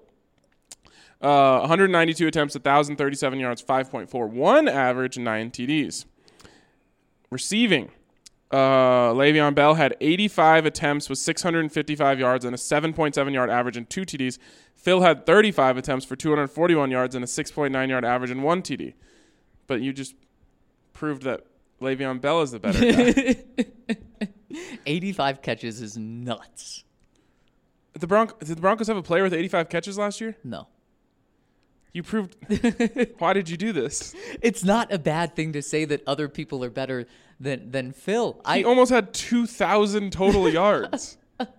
192 attempts, 1,037 yards, 5.41 average, and 9 TDs. Receiving, Le'Veon Bell had 85 attempts with 655 yards and a 7.7-yard average and 2 TDs. Phil had 35 attempts for 241 yards and a 6.9-yard average and 1 TD. But you just proved that Le'Veon Bell is the better guy. 85 catches is nuts. Did the Broncos have a player with 85 catches last year? No. You proved. Why did you do this? It's not a bad thing to say that other people are better than Phil. He almost had 2,000 total yards.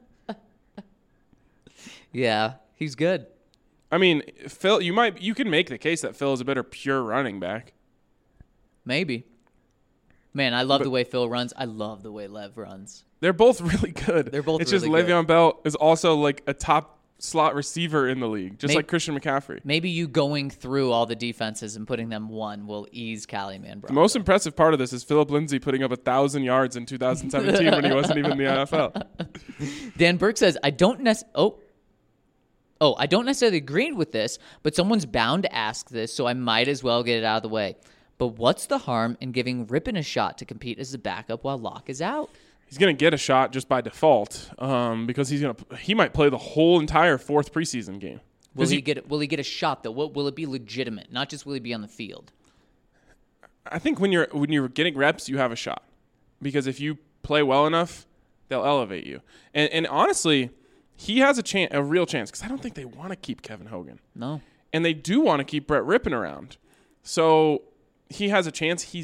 Yeah, he's good. I mean, Phil, you can make the case that Phil is a better pure running back. Maybe. Man, I love the way Phil runs. I love the way Lev runs. They're both really good. They're both It's really just Le'Veon Bell is also like a top slot receiver in the league, just like Christian McCaffrey. Maybe you going through all the defenses and putting them one will ease Caliman Bronco. The most impressive part of this is Phillip Lindsay putting up 1,000 yards in 2017 when he wasn't even in the NFL. Dan Burke says, I don't necessarily agree with this, but someone's bound to ask this, so I might as well get it out of the way. But what's the harm in giving Rippon a shot to compete as the backup while Locke is out? He's going to get a shot just by default because he might play the whole entire 4th preseason game. Will he get a shot, though? Will it be legitimate? Not just will he be on the field? I think when you're getting reps, you have a shot. Because if you play well enough, they'll elevate you. And honestly, he has a real chance because I don't think they want to keep Kevin Hogan. No. And they do want to keep Brett Rippon around. So he has a chance. He's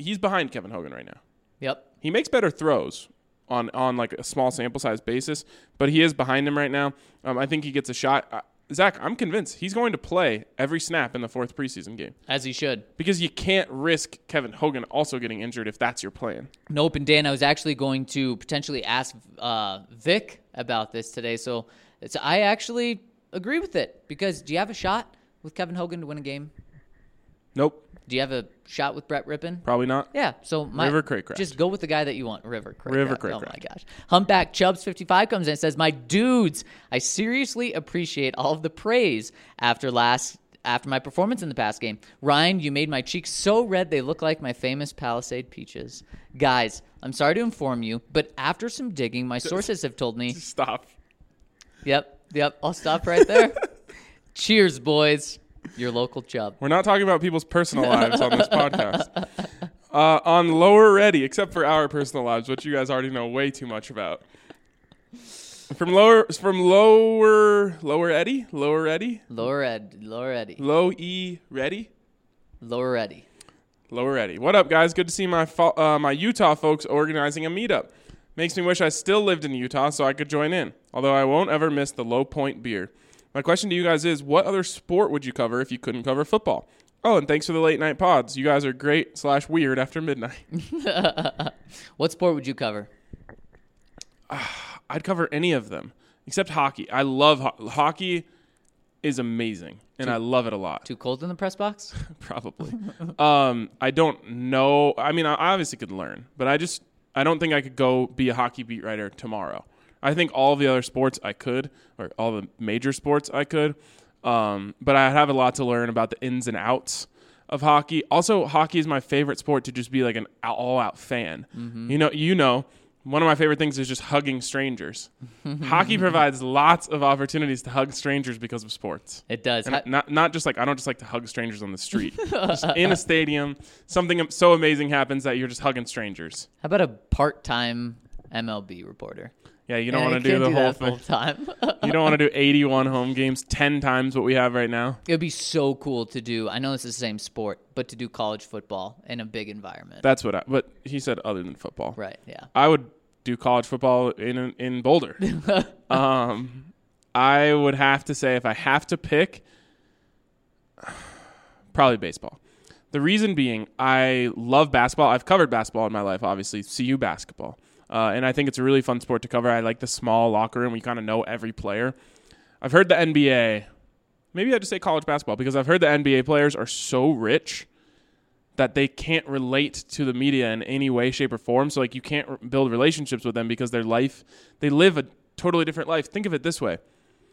he's behind Kevin Hogan right now. Yep. He makes better throws on like a small sample size basis, but he is behind him right now. I think he gets a shot. Zach, I'm convinced he's going to play every snap in the 4th preseason game. As he should. Because you can't risk Kevin Hogan also getting injured if that's your plan. Nope, and Dan, I was actually going to potentially ask Vic about this today, so I actually agree with it. Because do you have a shot with Kevin Hogan to win a game? Nope. Do you have a shot with Brett Rippon? Probably not. Yeah, so River Craycraft. Just go with the guy that you want, River Craycraft. River Craycraft. Oh my gosh. Humpback Chubbs 55 comes in and says, "My dudes, I seriously appreciate all of the praise after my performance in the past game. Ryan, you made my cheeks so red they look like my famous Palisade peaches. Guys, I'm sorry to inform you, but after some digging, my sources have told me." Stop. Yep, I'll stop right there. Cheers, boys. Your local Chubb. We're not talking about people's personal lives on this podcast. On Lower Ready, except for our personal lives, which you guys already know way too much about. From Lower Eddie? Lower Eddie? Lower Eddie. Low E Ready? Lower Eddie. Lower Eddie. What up, guys? Good to see my Utah folks organizing a meetup. Makes me wish I still lived in Utah so I could join in, although I won't ever miss the Low Point beer. My question to you guys is, what other sport would you cover if you couldn't cover football? Oh, and thanks for the late night pods. You guys are great/weird after midnight. What sport would you cover? I'd cover any of them except hockey. I love hockey. Is amazing, and I love it a lot. Too cold in the press box? Probably. I don't know. I mean, I obviously could learn, but I don't think I could go be a hockey beat writer tomorrow. I think all the other sports I could, or all the major sports I could, but I have a lot to learn about the ins and outs of hockey. Also, hockey is my favorite sport to just be like an all-out fan. Mm-hmm. You know, one of my favorite things is just hugging strangers. Hockey provides lots of opportunities to hug strangers because of sports. It does. And not just like, I don't just like to hug strangers on the street. Just in a stadium, something so amazing happens that you're just hugging strangers. How about a part-time MLB reporter? Yeah, you don't want to do the whole thing. Time. You don't want to do 81 home games, 10 times what we have right now. It would be so cool to do. I know it's the same sport, but to do college football in a big environment. That's what but he said other than football. Right, yeah. I would do college football in Boulder. I would have to say, if I have to pick, probably baseball. The reason being, I love basketball. I've covered basketball in my life, obviously, CU basketball. And I think it's a really fun sport to cover. I like the small locker room. We kind of know every player. I've heard the NBA. Maybe I just say college basketball because I've heard the NBA players are so rich that they can't relate to the media in any way, shape, or form. So, like, you can't build relationships with them because they live a totally different life. Think of it this way.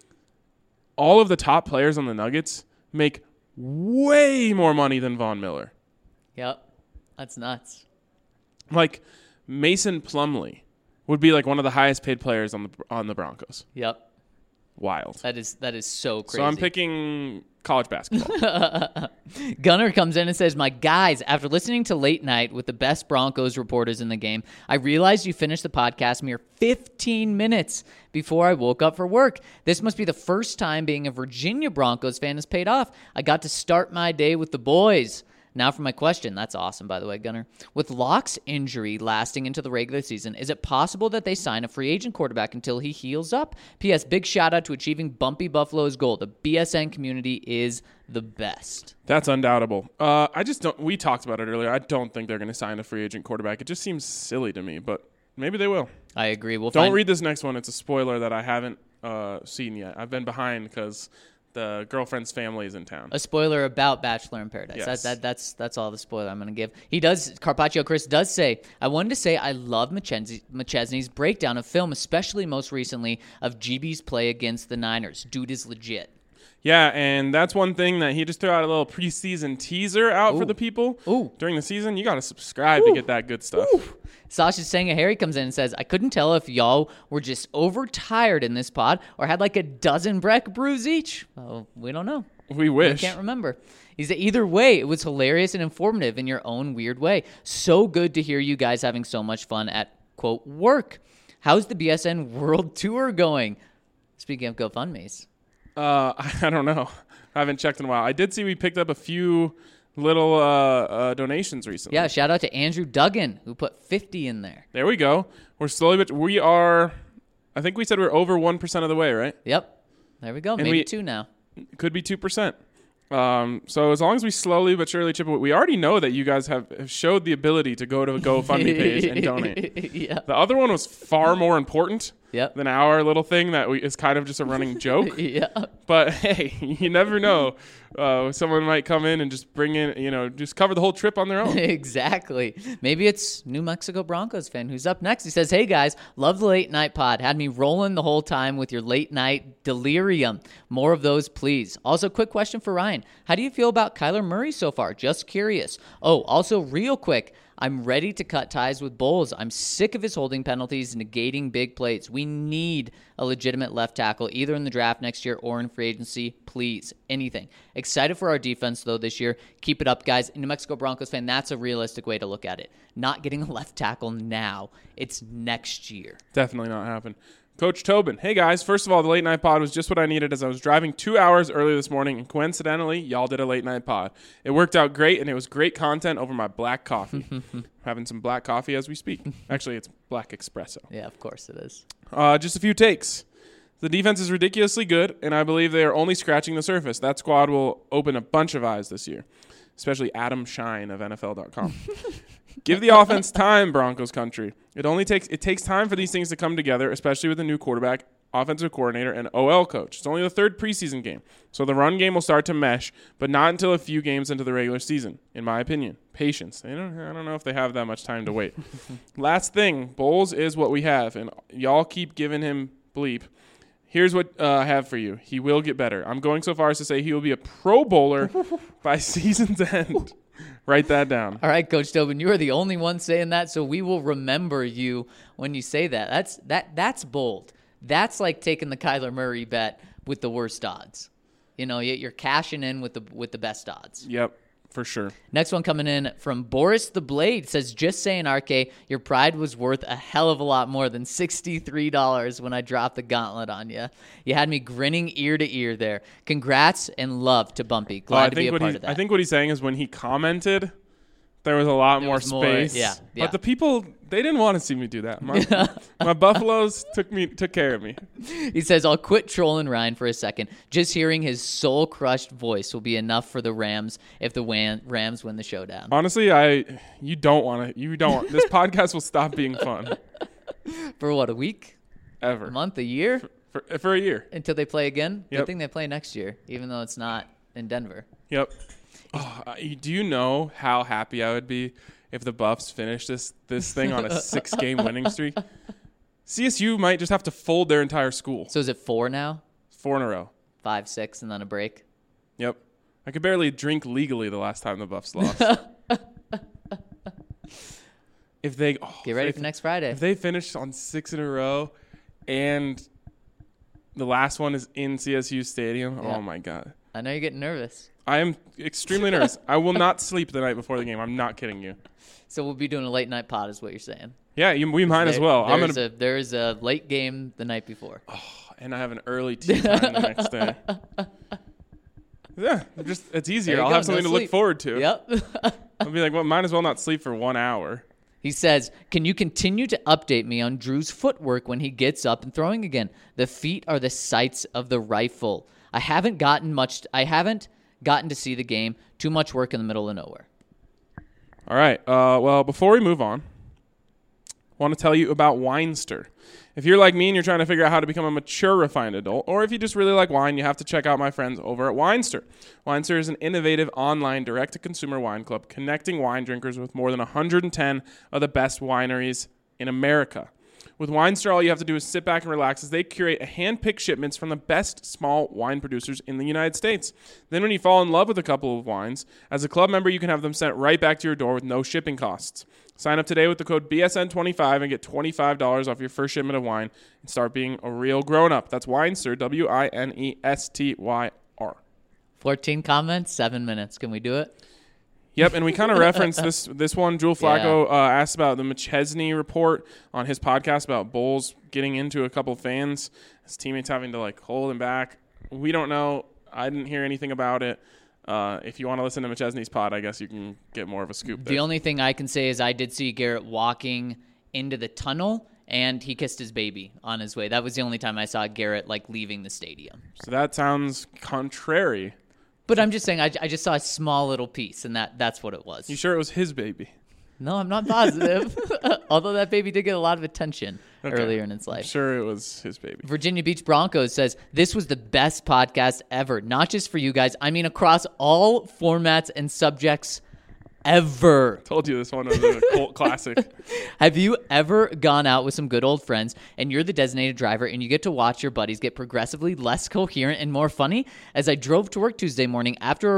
All of the top players on the Nuggets make way more money than Von Miller. Yep. That's nuts. Like, Mason Plumlee would be like one of the highest paid players on the Broncos. Yep. Wild. That is so crazy. So I'm picking college basketball. Gunner comes in and says, "My guys, after listening to Late Night with the best Broncos reporters in the game, I realized you finished the podcast mere 15 minutes before I woke up for work. This must be the first time being a Virginia Broncos fan has paid off. I got to start my day with the boys." Now for my question. That's awesome, by the way, Gunner. With Locke's injury lasting into the regular season, is it possible that they sign a free agent quarterback until he heals up? P.S. Big shout out to achieving Bumpy Buffalo's goal. The BSN community is the best. That's undoubtable. We talked about it earlier. I don't think they're going to sign a free agent quarterback. It just seems silly to me, but maybe they will. I agree. Don't read this next one. It's a spoiler that I haven't seen yet. I've been behind because the girlfriend's family is in town. A spoiler about Bachelor in Paradise. Yes. That's all the spoiler I'm going to give. Carpaccio Chris does say, I wanted to say I love McChesney's breakdown of film, especially most recently of GB's play against the Niners. Dude is legit. Yeah, and that's one thing that he just threw out a little preseason teaser out for the people. During the season. You got to subscribe to get that good stuff. Sasha Senga Harry comes in and says, I couldn't tell if y'all were just overtired in this pod or had like a dozen Breck brews each. Oh, we don't know. We wish. I can't remember. He said, either way, it was hilarious and informative in your own weird way. So good to hear you guys having so much fun at, quote, work. How's the BSN World Tour going? Speaking of GoFundMes. I don't know. I haven't checked in a while. I did see we picked up a few little donations recently. Yeah, shout out to Andrew Duggan, who put 50 in there. There we go. We're slowly, but we are, I think we said we're over 1% of the way, right? Yep. There we go. Maybe 2 now. Could be 2%. So as long as we slowly but surely chip away, we already know that you guys have showed the ability to go to a GoFundMe page and donate. Yeah. The other one was far more important Yep. than our little thing that is kind of just a running joke. Yeah. But hey, you never know. Someone might come in and just bring in, just cover the whole trip on their own. Exactly. Maybe it's New Mexico Broncos fan who's up next. He says, "Hey guys, love the late night pod. Had me rolling the whole time with your late night delirium. More of those, please. Also, quick question for Ryan. How do you feel about Kyler Murray so far? Just curious. Oh, also real quick. I'm ready to cut ties with Bowles. I'm sick of his holding penalties, negating big plays. We need a legitimate left tackle, either in the draft next year or in free agency. Please, anything. Excited for our defense, though, this year. Keep it up, guys. New Mexico Broncos fan, that's a realistic way to look at it. Not getting a left tackle now. It's next year." Definitely not happen. Coach Tobin, hey guys, first of all, the late night pod was just what I needed as I was driving 2 hours earlier this morning, and coincidentally, y'all did a late night pod. It worked out great, and it was great content over my black coffee. Having some black coffee as we speak. Actually, it's black espresso. Yeah, of course it is. Just a few takes. The defense is ridiculously good, and I believe they are only scratching the surface. That squad will open a bunch of eyes this year, especially Adam Shine of NFL.com. Give the offense time, Broncos country. It takes time for these things to come together, especially with a new quarterback, offensive coordinator, and OL coach. It's only the third preseason game, so the run game will start to mesh, but not until a few games into the regular season, in my opinion. Patience. I don't know if they have that much time to wait. Last thing, Bowles is what we have, and y'all keep giving him bleep. Here's what I have for you. He will get better. I'm going so far as to say he will be a Pro Bowler by season's end. Write that down. All right, Coach Tobin, you are the only one saying that, so we will remember you when you say that. That's bold. That's like taking the Kyler Murray bet with the worst odds. You're cashing in with the best odds. Yep, for sure. Next one coming in from Boris the Blade says, "Just saying, RK, your pride was worth a hell of a lot more than $63 when I dropped the gauntlet on you. You had me grinning ear to ear there. Congrats and love to Bumpy. Glad to be a part of that." I think what he's saying is when he commented, there was a lot more space. Yeah. But the people, they didn't want to see me do that. My Buffaloes took care of me. He says, "I'll quit trolling Ryan for a second. Just hearing his soul-crushed voice will be enough for the Rams if the Rams win the showdown." Honestly, you don't want. This podcast will stop being fun. For what, a week? Ever. A month? A year? For a year. Until they play again? Yep. Good thing they play next year, even though it's not in Denver. Yep. Oh, do you know how happy I would be if the Buffs finished this thing on a 6-game winning streak? CSU might just have to fold their entire school. So is it 4 now? 4 in a row. 5, 6, and then a break? Yep. I could barely drink legally the last time the Buffs lost. Get ready for next Friday. If they finish on 6 in a row and the last one is in CSU Stadium, Yeah. Oh my God. I know you're getting nervous. I am extremely nervous. I will not sleep the night before the game. I'm not kidding you. So we'll be doing a late night pod is what you're saying. Yeah, we might as well. There is a late game the night before. Oh, and I have an early tea time the next day. Yeah, it's easier. I'll have something to look forward to. Yep. I'll be like, well, might as well not sleep for 1 hour. He says, "Can you continue to update me on Drew's footwork when he gets up and throwing again? The feet are the sights of the rifle. I haven't gotten to see the game. Too much work in the middle of nowhere." All right. Well, before we move on, I want to tell you about Winester. If you're like me and you're trying to figure out how to become a mature, refined adult, or if you just really like wine, you have to check out my friends over at Winester. Winester is an innovative online direct-to-consumer wine club connecting wine drinkers with more than 110 of the best wineries in America. With Winester, all you have to do is sit back and relax as they curate hand-picked shipments from the best small wine producers in the United States. Then when you fall in love with a couple of wines, as a club member, you can have them sent right back to your door with no shipping costs. Sign up today with the code BSN25 and get $25 off your first shipment of wine and start being a real grown-up. That's Winester, Winestyr. 14 comments, 7 minutes. Can we do it? Yep, and we kind of referenced this one. Joel Flacco asked about the McChesney report on his podcast about Bowles getting into a couple fans, his teammates having to hold him back. We don't know. I didn't hear anything about it. if you want to listen to McChesney's pod, I guess you can get more of a scoop there. The only thing I can say is I did see Garrett walking into the tunnel, and he kissed his baby on his way. That was the only time I saw Garrett leaving the stadium. So that sounds contrary. But I'm just saying, I just saw a small little piece, and that's what it was. You sure it was his baby? No, I'm not positive. Although that baby did get a lot of attention earlier in its I'm life. sure it was his baby. Virginia Beach Broncos says, this was the best podcast ever. Not just for you guys. I mean, across all formats and subjects ever. Told you this one was a cult classic. Have you ever gone out with some good old friends and you're the designated driver and you get to watch your buddies get progressively less coherent and more funny? As I drove to work Tuesday morning after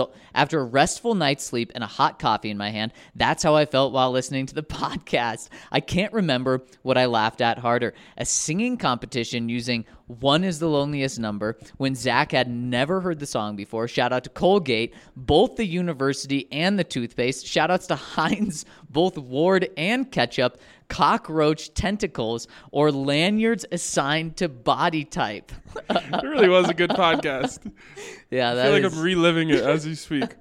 a restful night's sleep and a hot coffee in my hand, that's how I felt while listening to the podcast. I can't remember what I laughed at harder. A singing competition using One Is the Loneliest Number when Zach had never heard the song before. Shout out to Colgate, both the university and the toothpaste. Shout outs to Heinz, both Ward and ketchup, cockroach tentacles, or lanyards assigned to body type. It really was a good podcast. Yeah, I feel like I'm reliving it as you speak.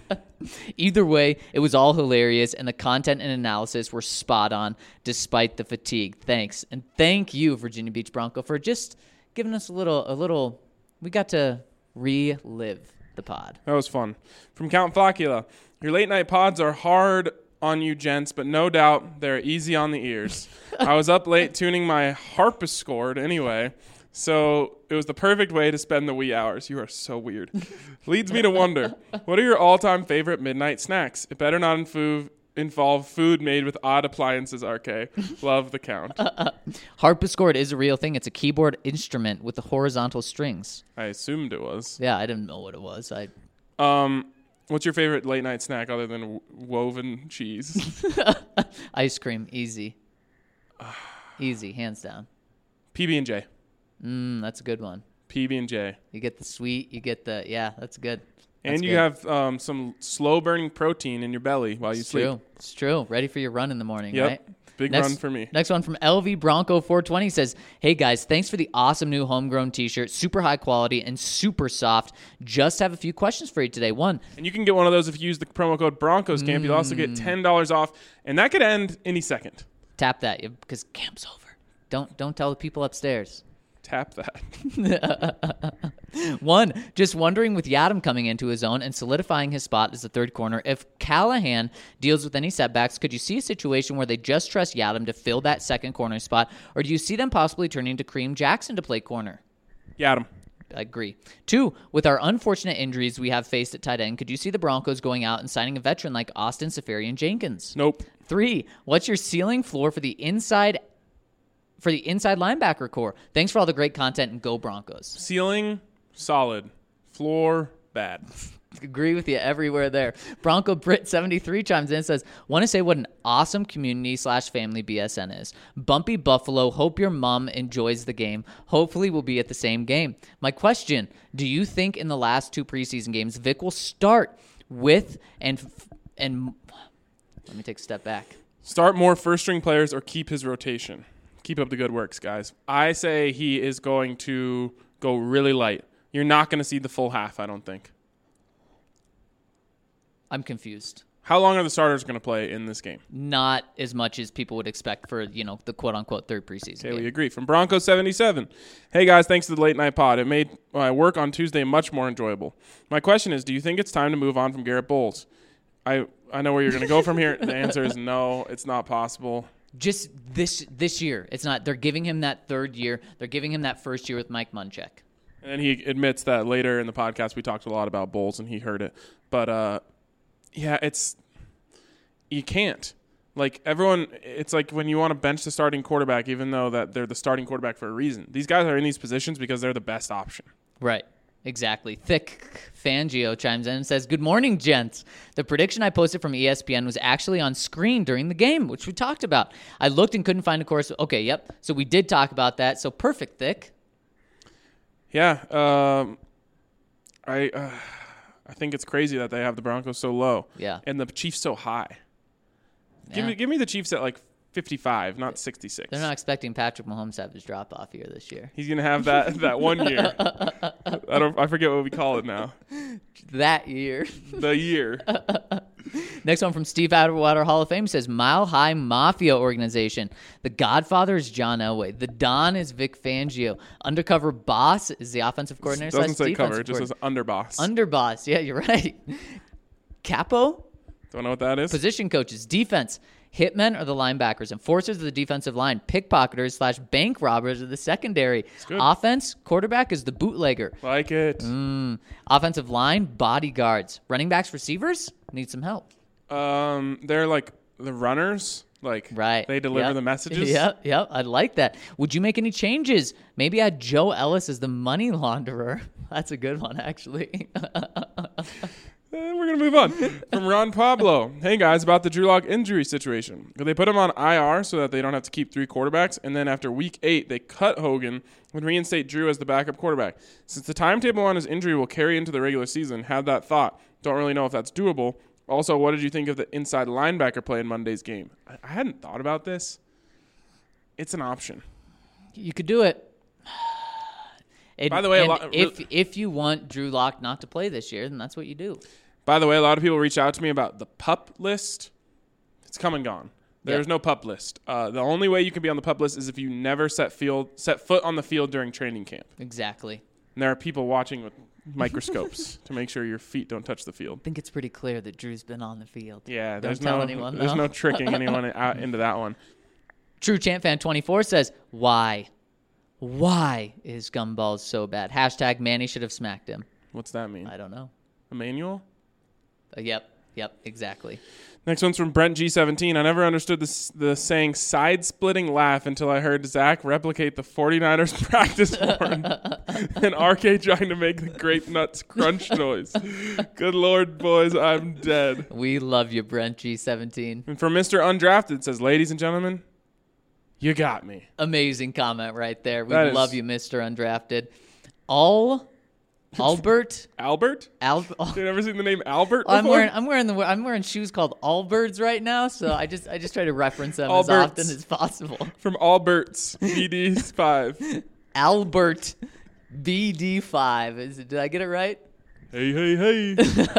Either way, it was all hilarious, and the content and analysis were spot on despite the fatigue. Thanks. And thank you, Virginia Beach Bronco, for just giving us a little, we got to relive the pod. That was fun. From Count Flocula, your late night pods are hard on you gents, but no doubt they're easy on the ears. I was up late tuning my harpsichord anyway, so it was the perfect way to spend the wee hours. You are so weird. Leads me to wonder, what are your all-time favorite midnight snacks? It better not involve food made with odd appliances, RK. Love the Count. Harpsichord is a real thing. It's a keyboard instrument with the horizontal strings. I assumed it was. Yeah, I didn't know what it was. What's your favorite late night snack other than woven cheese? Ice cream, easy. Easy, hands down. PB&J. That's a good one. PB&J. You get the sweet, you get the, yeah, that's good. And you have some slow-burning protein in your belly while you sleep. True. It's true. Ready for your run in the morning, Yep. right? Big run for me. Next one from LV Bronco 420 says, hey guys, thanks for the awesome new homegrown t-shirt. Super high quality and super soft. Just have a few questions for you today. One. And you can get one of those if you use the promo code BroncosCamp. You'll also get $10 off. And that could end any second. Tap that because camp's over. Don't tell the people upstairs. Tap that. One, just wondering with Yadam coming into his own and solidifying his spot as the third corner, if Callahan deals with any setbacks, could you see a situation where they just trust Yadam to fill that second corner spot, or do you see them possibly turning to Kareem Jackson to play corner? Yadam. I agree. Two, with our unfortunate injuries we have faced at tight end, could you see the Broncos going out and signing a veteran like Austin Seferian-Jenkins? Nope. Three, what's your ceiling floor for the inside linebacker core? Thanks for all the great content and go Broncos. Ceiling, solid. Floor, bad. Agree with you everywhere there. Bronco Brit 73 chimes in and says, want to say what an awesome community/family BSN is. Bumpy Buffalo, hope your mom enjoys the game. Hopefully we'll be at the same game. My question, do you think in the last two preseason games, Vic will start with and let me take a step back. Start more first-string players or keep his rotation. Keep up the good works, guys. I say he is going to go really light. You're not going to see the full half, I don't think. I'm confused. How long are the starters going to play in this game? Not as much as people would expect for, the quote-unquote third preseason Okay, game. we agree. From Bronco 77. Hey, guys, thanks to the late night pod. It made my work on Tuesday much more enjoyable. My question is, do you think it's time to move on from Garrett Bowles? I know where you're going to go from here. The answer is no, it's not possible. Just this year. It's not. They're giving him that third year. They're giving him that first year with Mike Munchak. And he admits that later in the podcast we talked a lot about Bowles and he heard it. But, you can't. Like, everyone, it's like when you want to bench the starting quarterback, even though that they're the starting quarterback for a reason. These guys are in these positions because they're the best option. Right. Exactly. Thick Fangio chimes in and says, good morning, gents. The prediction I posted from ESPN was actually on screen during the game, which we talked about. I looked and couldn't find a course. Okay, yep. So we did talk about that. So perfect, Thick. Yeah. I think it's crazy that they have the Broncos so low. Yeah. And the Chiefs so high. Yeah. Give me the Chiefs at like 55, not 66. They're not expecting Patrick Mahomes to have his drop-off year this year. He's going to have that 1 year. I forget what we call it now. that year. The year. Next one from Steve Atwater Hall of Fame says Mile High Mafia Organization. The Godfather is John Elway. The Don is Vic Fangio. Undercover Boss is the offensive coordinator. Doesn't say cover. It just says underboss. Underboss. Yeah, you're right. Capo. Don't know what that is. Position coaches. Defense. Hitmen are the linebackers. Enforcers are the defensive line. Pickpocketers / bank robbers are the secondary. Offense. Quarterback is the bootlegger. Like it. Offensive line. Bodyguards. Running backs. Receivers need some help. They're like the runners. Like, right. They deliver the messages. Yep. I like that. Would you make any changes? Maybe add Joe Ellis as the money launderer. That's a good one, actually. We're going to move on. From Ron Pablo. Hey, guys, about the Drew Lock injury situation. They put him on IR so that they don't have to keep 3 quarterbacks, and then after week 8, they cut Hogan and reinstate Drew as the backup quarterback. Since the timetable on his injury will carry into the regular season, had that thought. Don't really know if that's doable. Also, what did you think of the inside linebacker play in Monday's game? I hadn't thought about this. It's an option. You could do it. By the way, if you want Drew Lock not to play this year, then that's what you do. By the way, a lot of people reach out to me about the PUP list. It's come and gone. There's no PUP list. The only way you can be on the PUP list is if you never set foot on the field during training camp. Exactly. And there are people watching with microscopes to make sure your feet don't touch the field. I think it's pretty clear that Drew's been on the field. Yeah, Don't tell anyone. There's no tricking anyone out into that one. True Champ Fan 24 says, why? Why is Gumballs so bad? Hashtag Manny should have smacked him. What's that mean? I don't know. Emmanuel? Yep, exactly. Next one's from Brent G17. I never understood the saying side-splitting laugh until I heard Zach replicate the 49ers practice horn and RK trying to make the grape nuts crunch noise. Good Lord, boys, I'm dead. We love you, Brent G17. And from Mr. Undrafted, it says, ladies and gentlemen, you got me. Amazing comment right there. We love you, Mr. Undrafted. Albert? Albert? Have you ever seen the name Albert before? I'm wearing shoes called Allbirds right now, so I just try to reference them as often as possible. From Albert's BD5. Albert BD5. Did I get it right? Hey.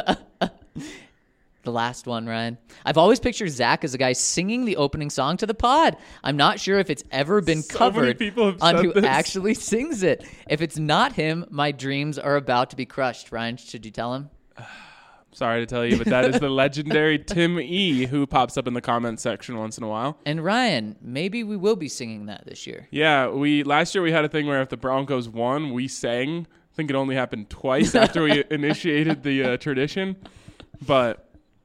The last one, Ryan. I've always pictured Zach as a guy singing the opening song to the pod. I'm not sure if it's ever been covered on who actually sings it. If it's not him, my dreams are about to be crushed. Ryan, should you tell him? Sorry to tell you, but that is the legendary Tim E, who pops up in the comments section once in a while. And Ryan, maybe we will be singing that this year. Yeah, last year we had a thing where if the Broncos won, we sang. I think it only happened twice after we initiated the tradition. But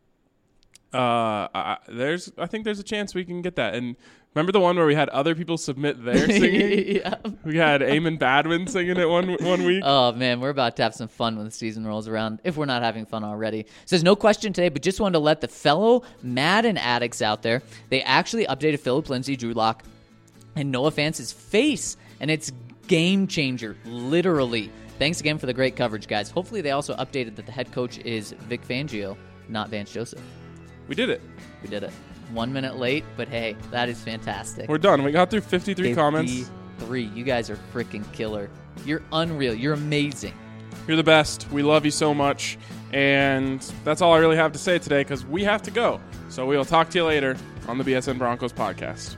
I think there's a chance we can get that. And remember the one where we had other people submit their singing? Yeah. We had Eamon Badwin singing it one week. Oh, man, we're about to have some fun when the season rolls around, if we're not having fun already. It says, no question today, but just wanted to let the fellow Madden addicts out there, they actually updated Phillip Lindsay, Drew Lock, and Noah Fance's face, and it's game changer, literally. Thanks again for the great coverage, guys. Hopefully they also updated that the head coach is Vic Fangio, not Vance Joseph. We did it. 1 minute late, but hey, that is fantastic. We're done. We got through 53 comments. 53. You guys are freaking killer. You're unreal. You're amazing. You're the best. We love you so much. And that's all I really have to say today because we have to go. So we'll talk to you later on the BSN Broncos podcast.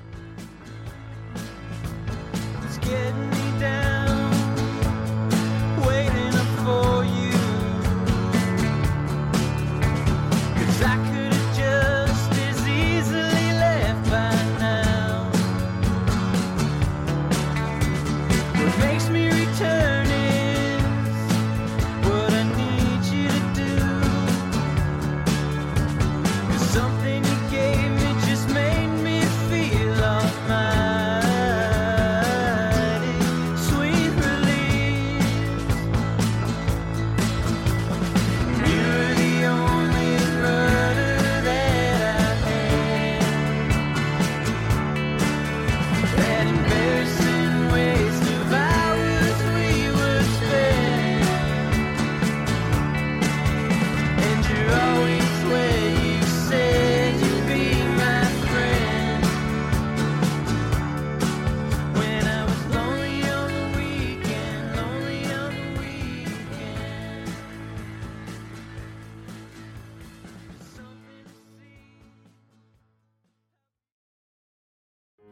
It's getting me down, waiting up for you. 'Cause I could have just as easily left by now. What makes me return is what I need you to do. 'Cause something you gave me just made me feel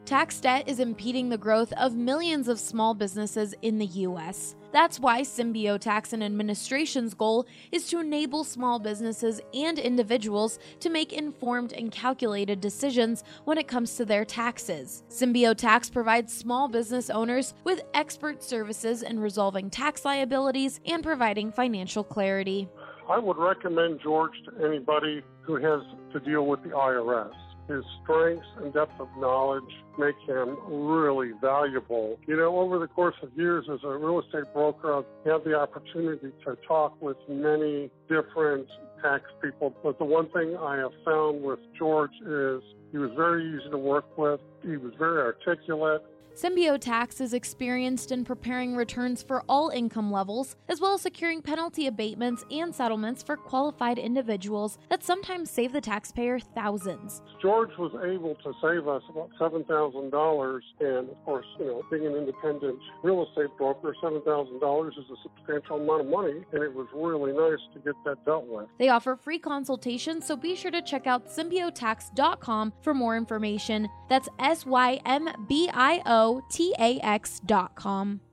Tax debt is impeding the growth of millions of small businesses in the U.S. That's why Symbio Tax and Administration's goal is to enable small businesses and individuals to make informed and calculated decisions when it comes to their taxes. Symbio Tax provides small business owners with expert services in resolving tax liabilities and providing financial clarity. I would recommend George to anybody who has to deal with the IRS. His strengths and depth of knowledge make him really valuable. You know, over the course of years as a real estate broker, I've had the opportunity to talk with many different tax people. But the one thing I have found with George is he was very easy to work with. He was very articulate. Symbio Tax is experienced in preparing returns for all income levels, as well as securing penalty abatements and settlements for qualified individuals that sometimes save the taxpayer thousands. George was able to save us about $7,000, and of course, you know, being an independent real estate broker, $7,000 is a substantial amount of money, and it was really nice to get that dealt with. They offer free consultations, so be sure to check out symbiotax.com for more information. That's SYMBIOTAX.com.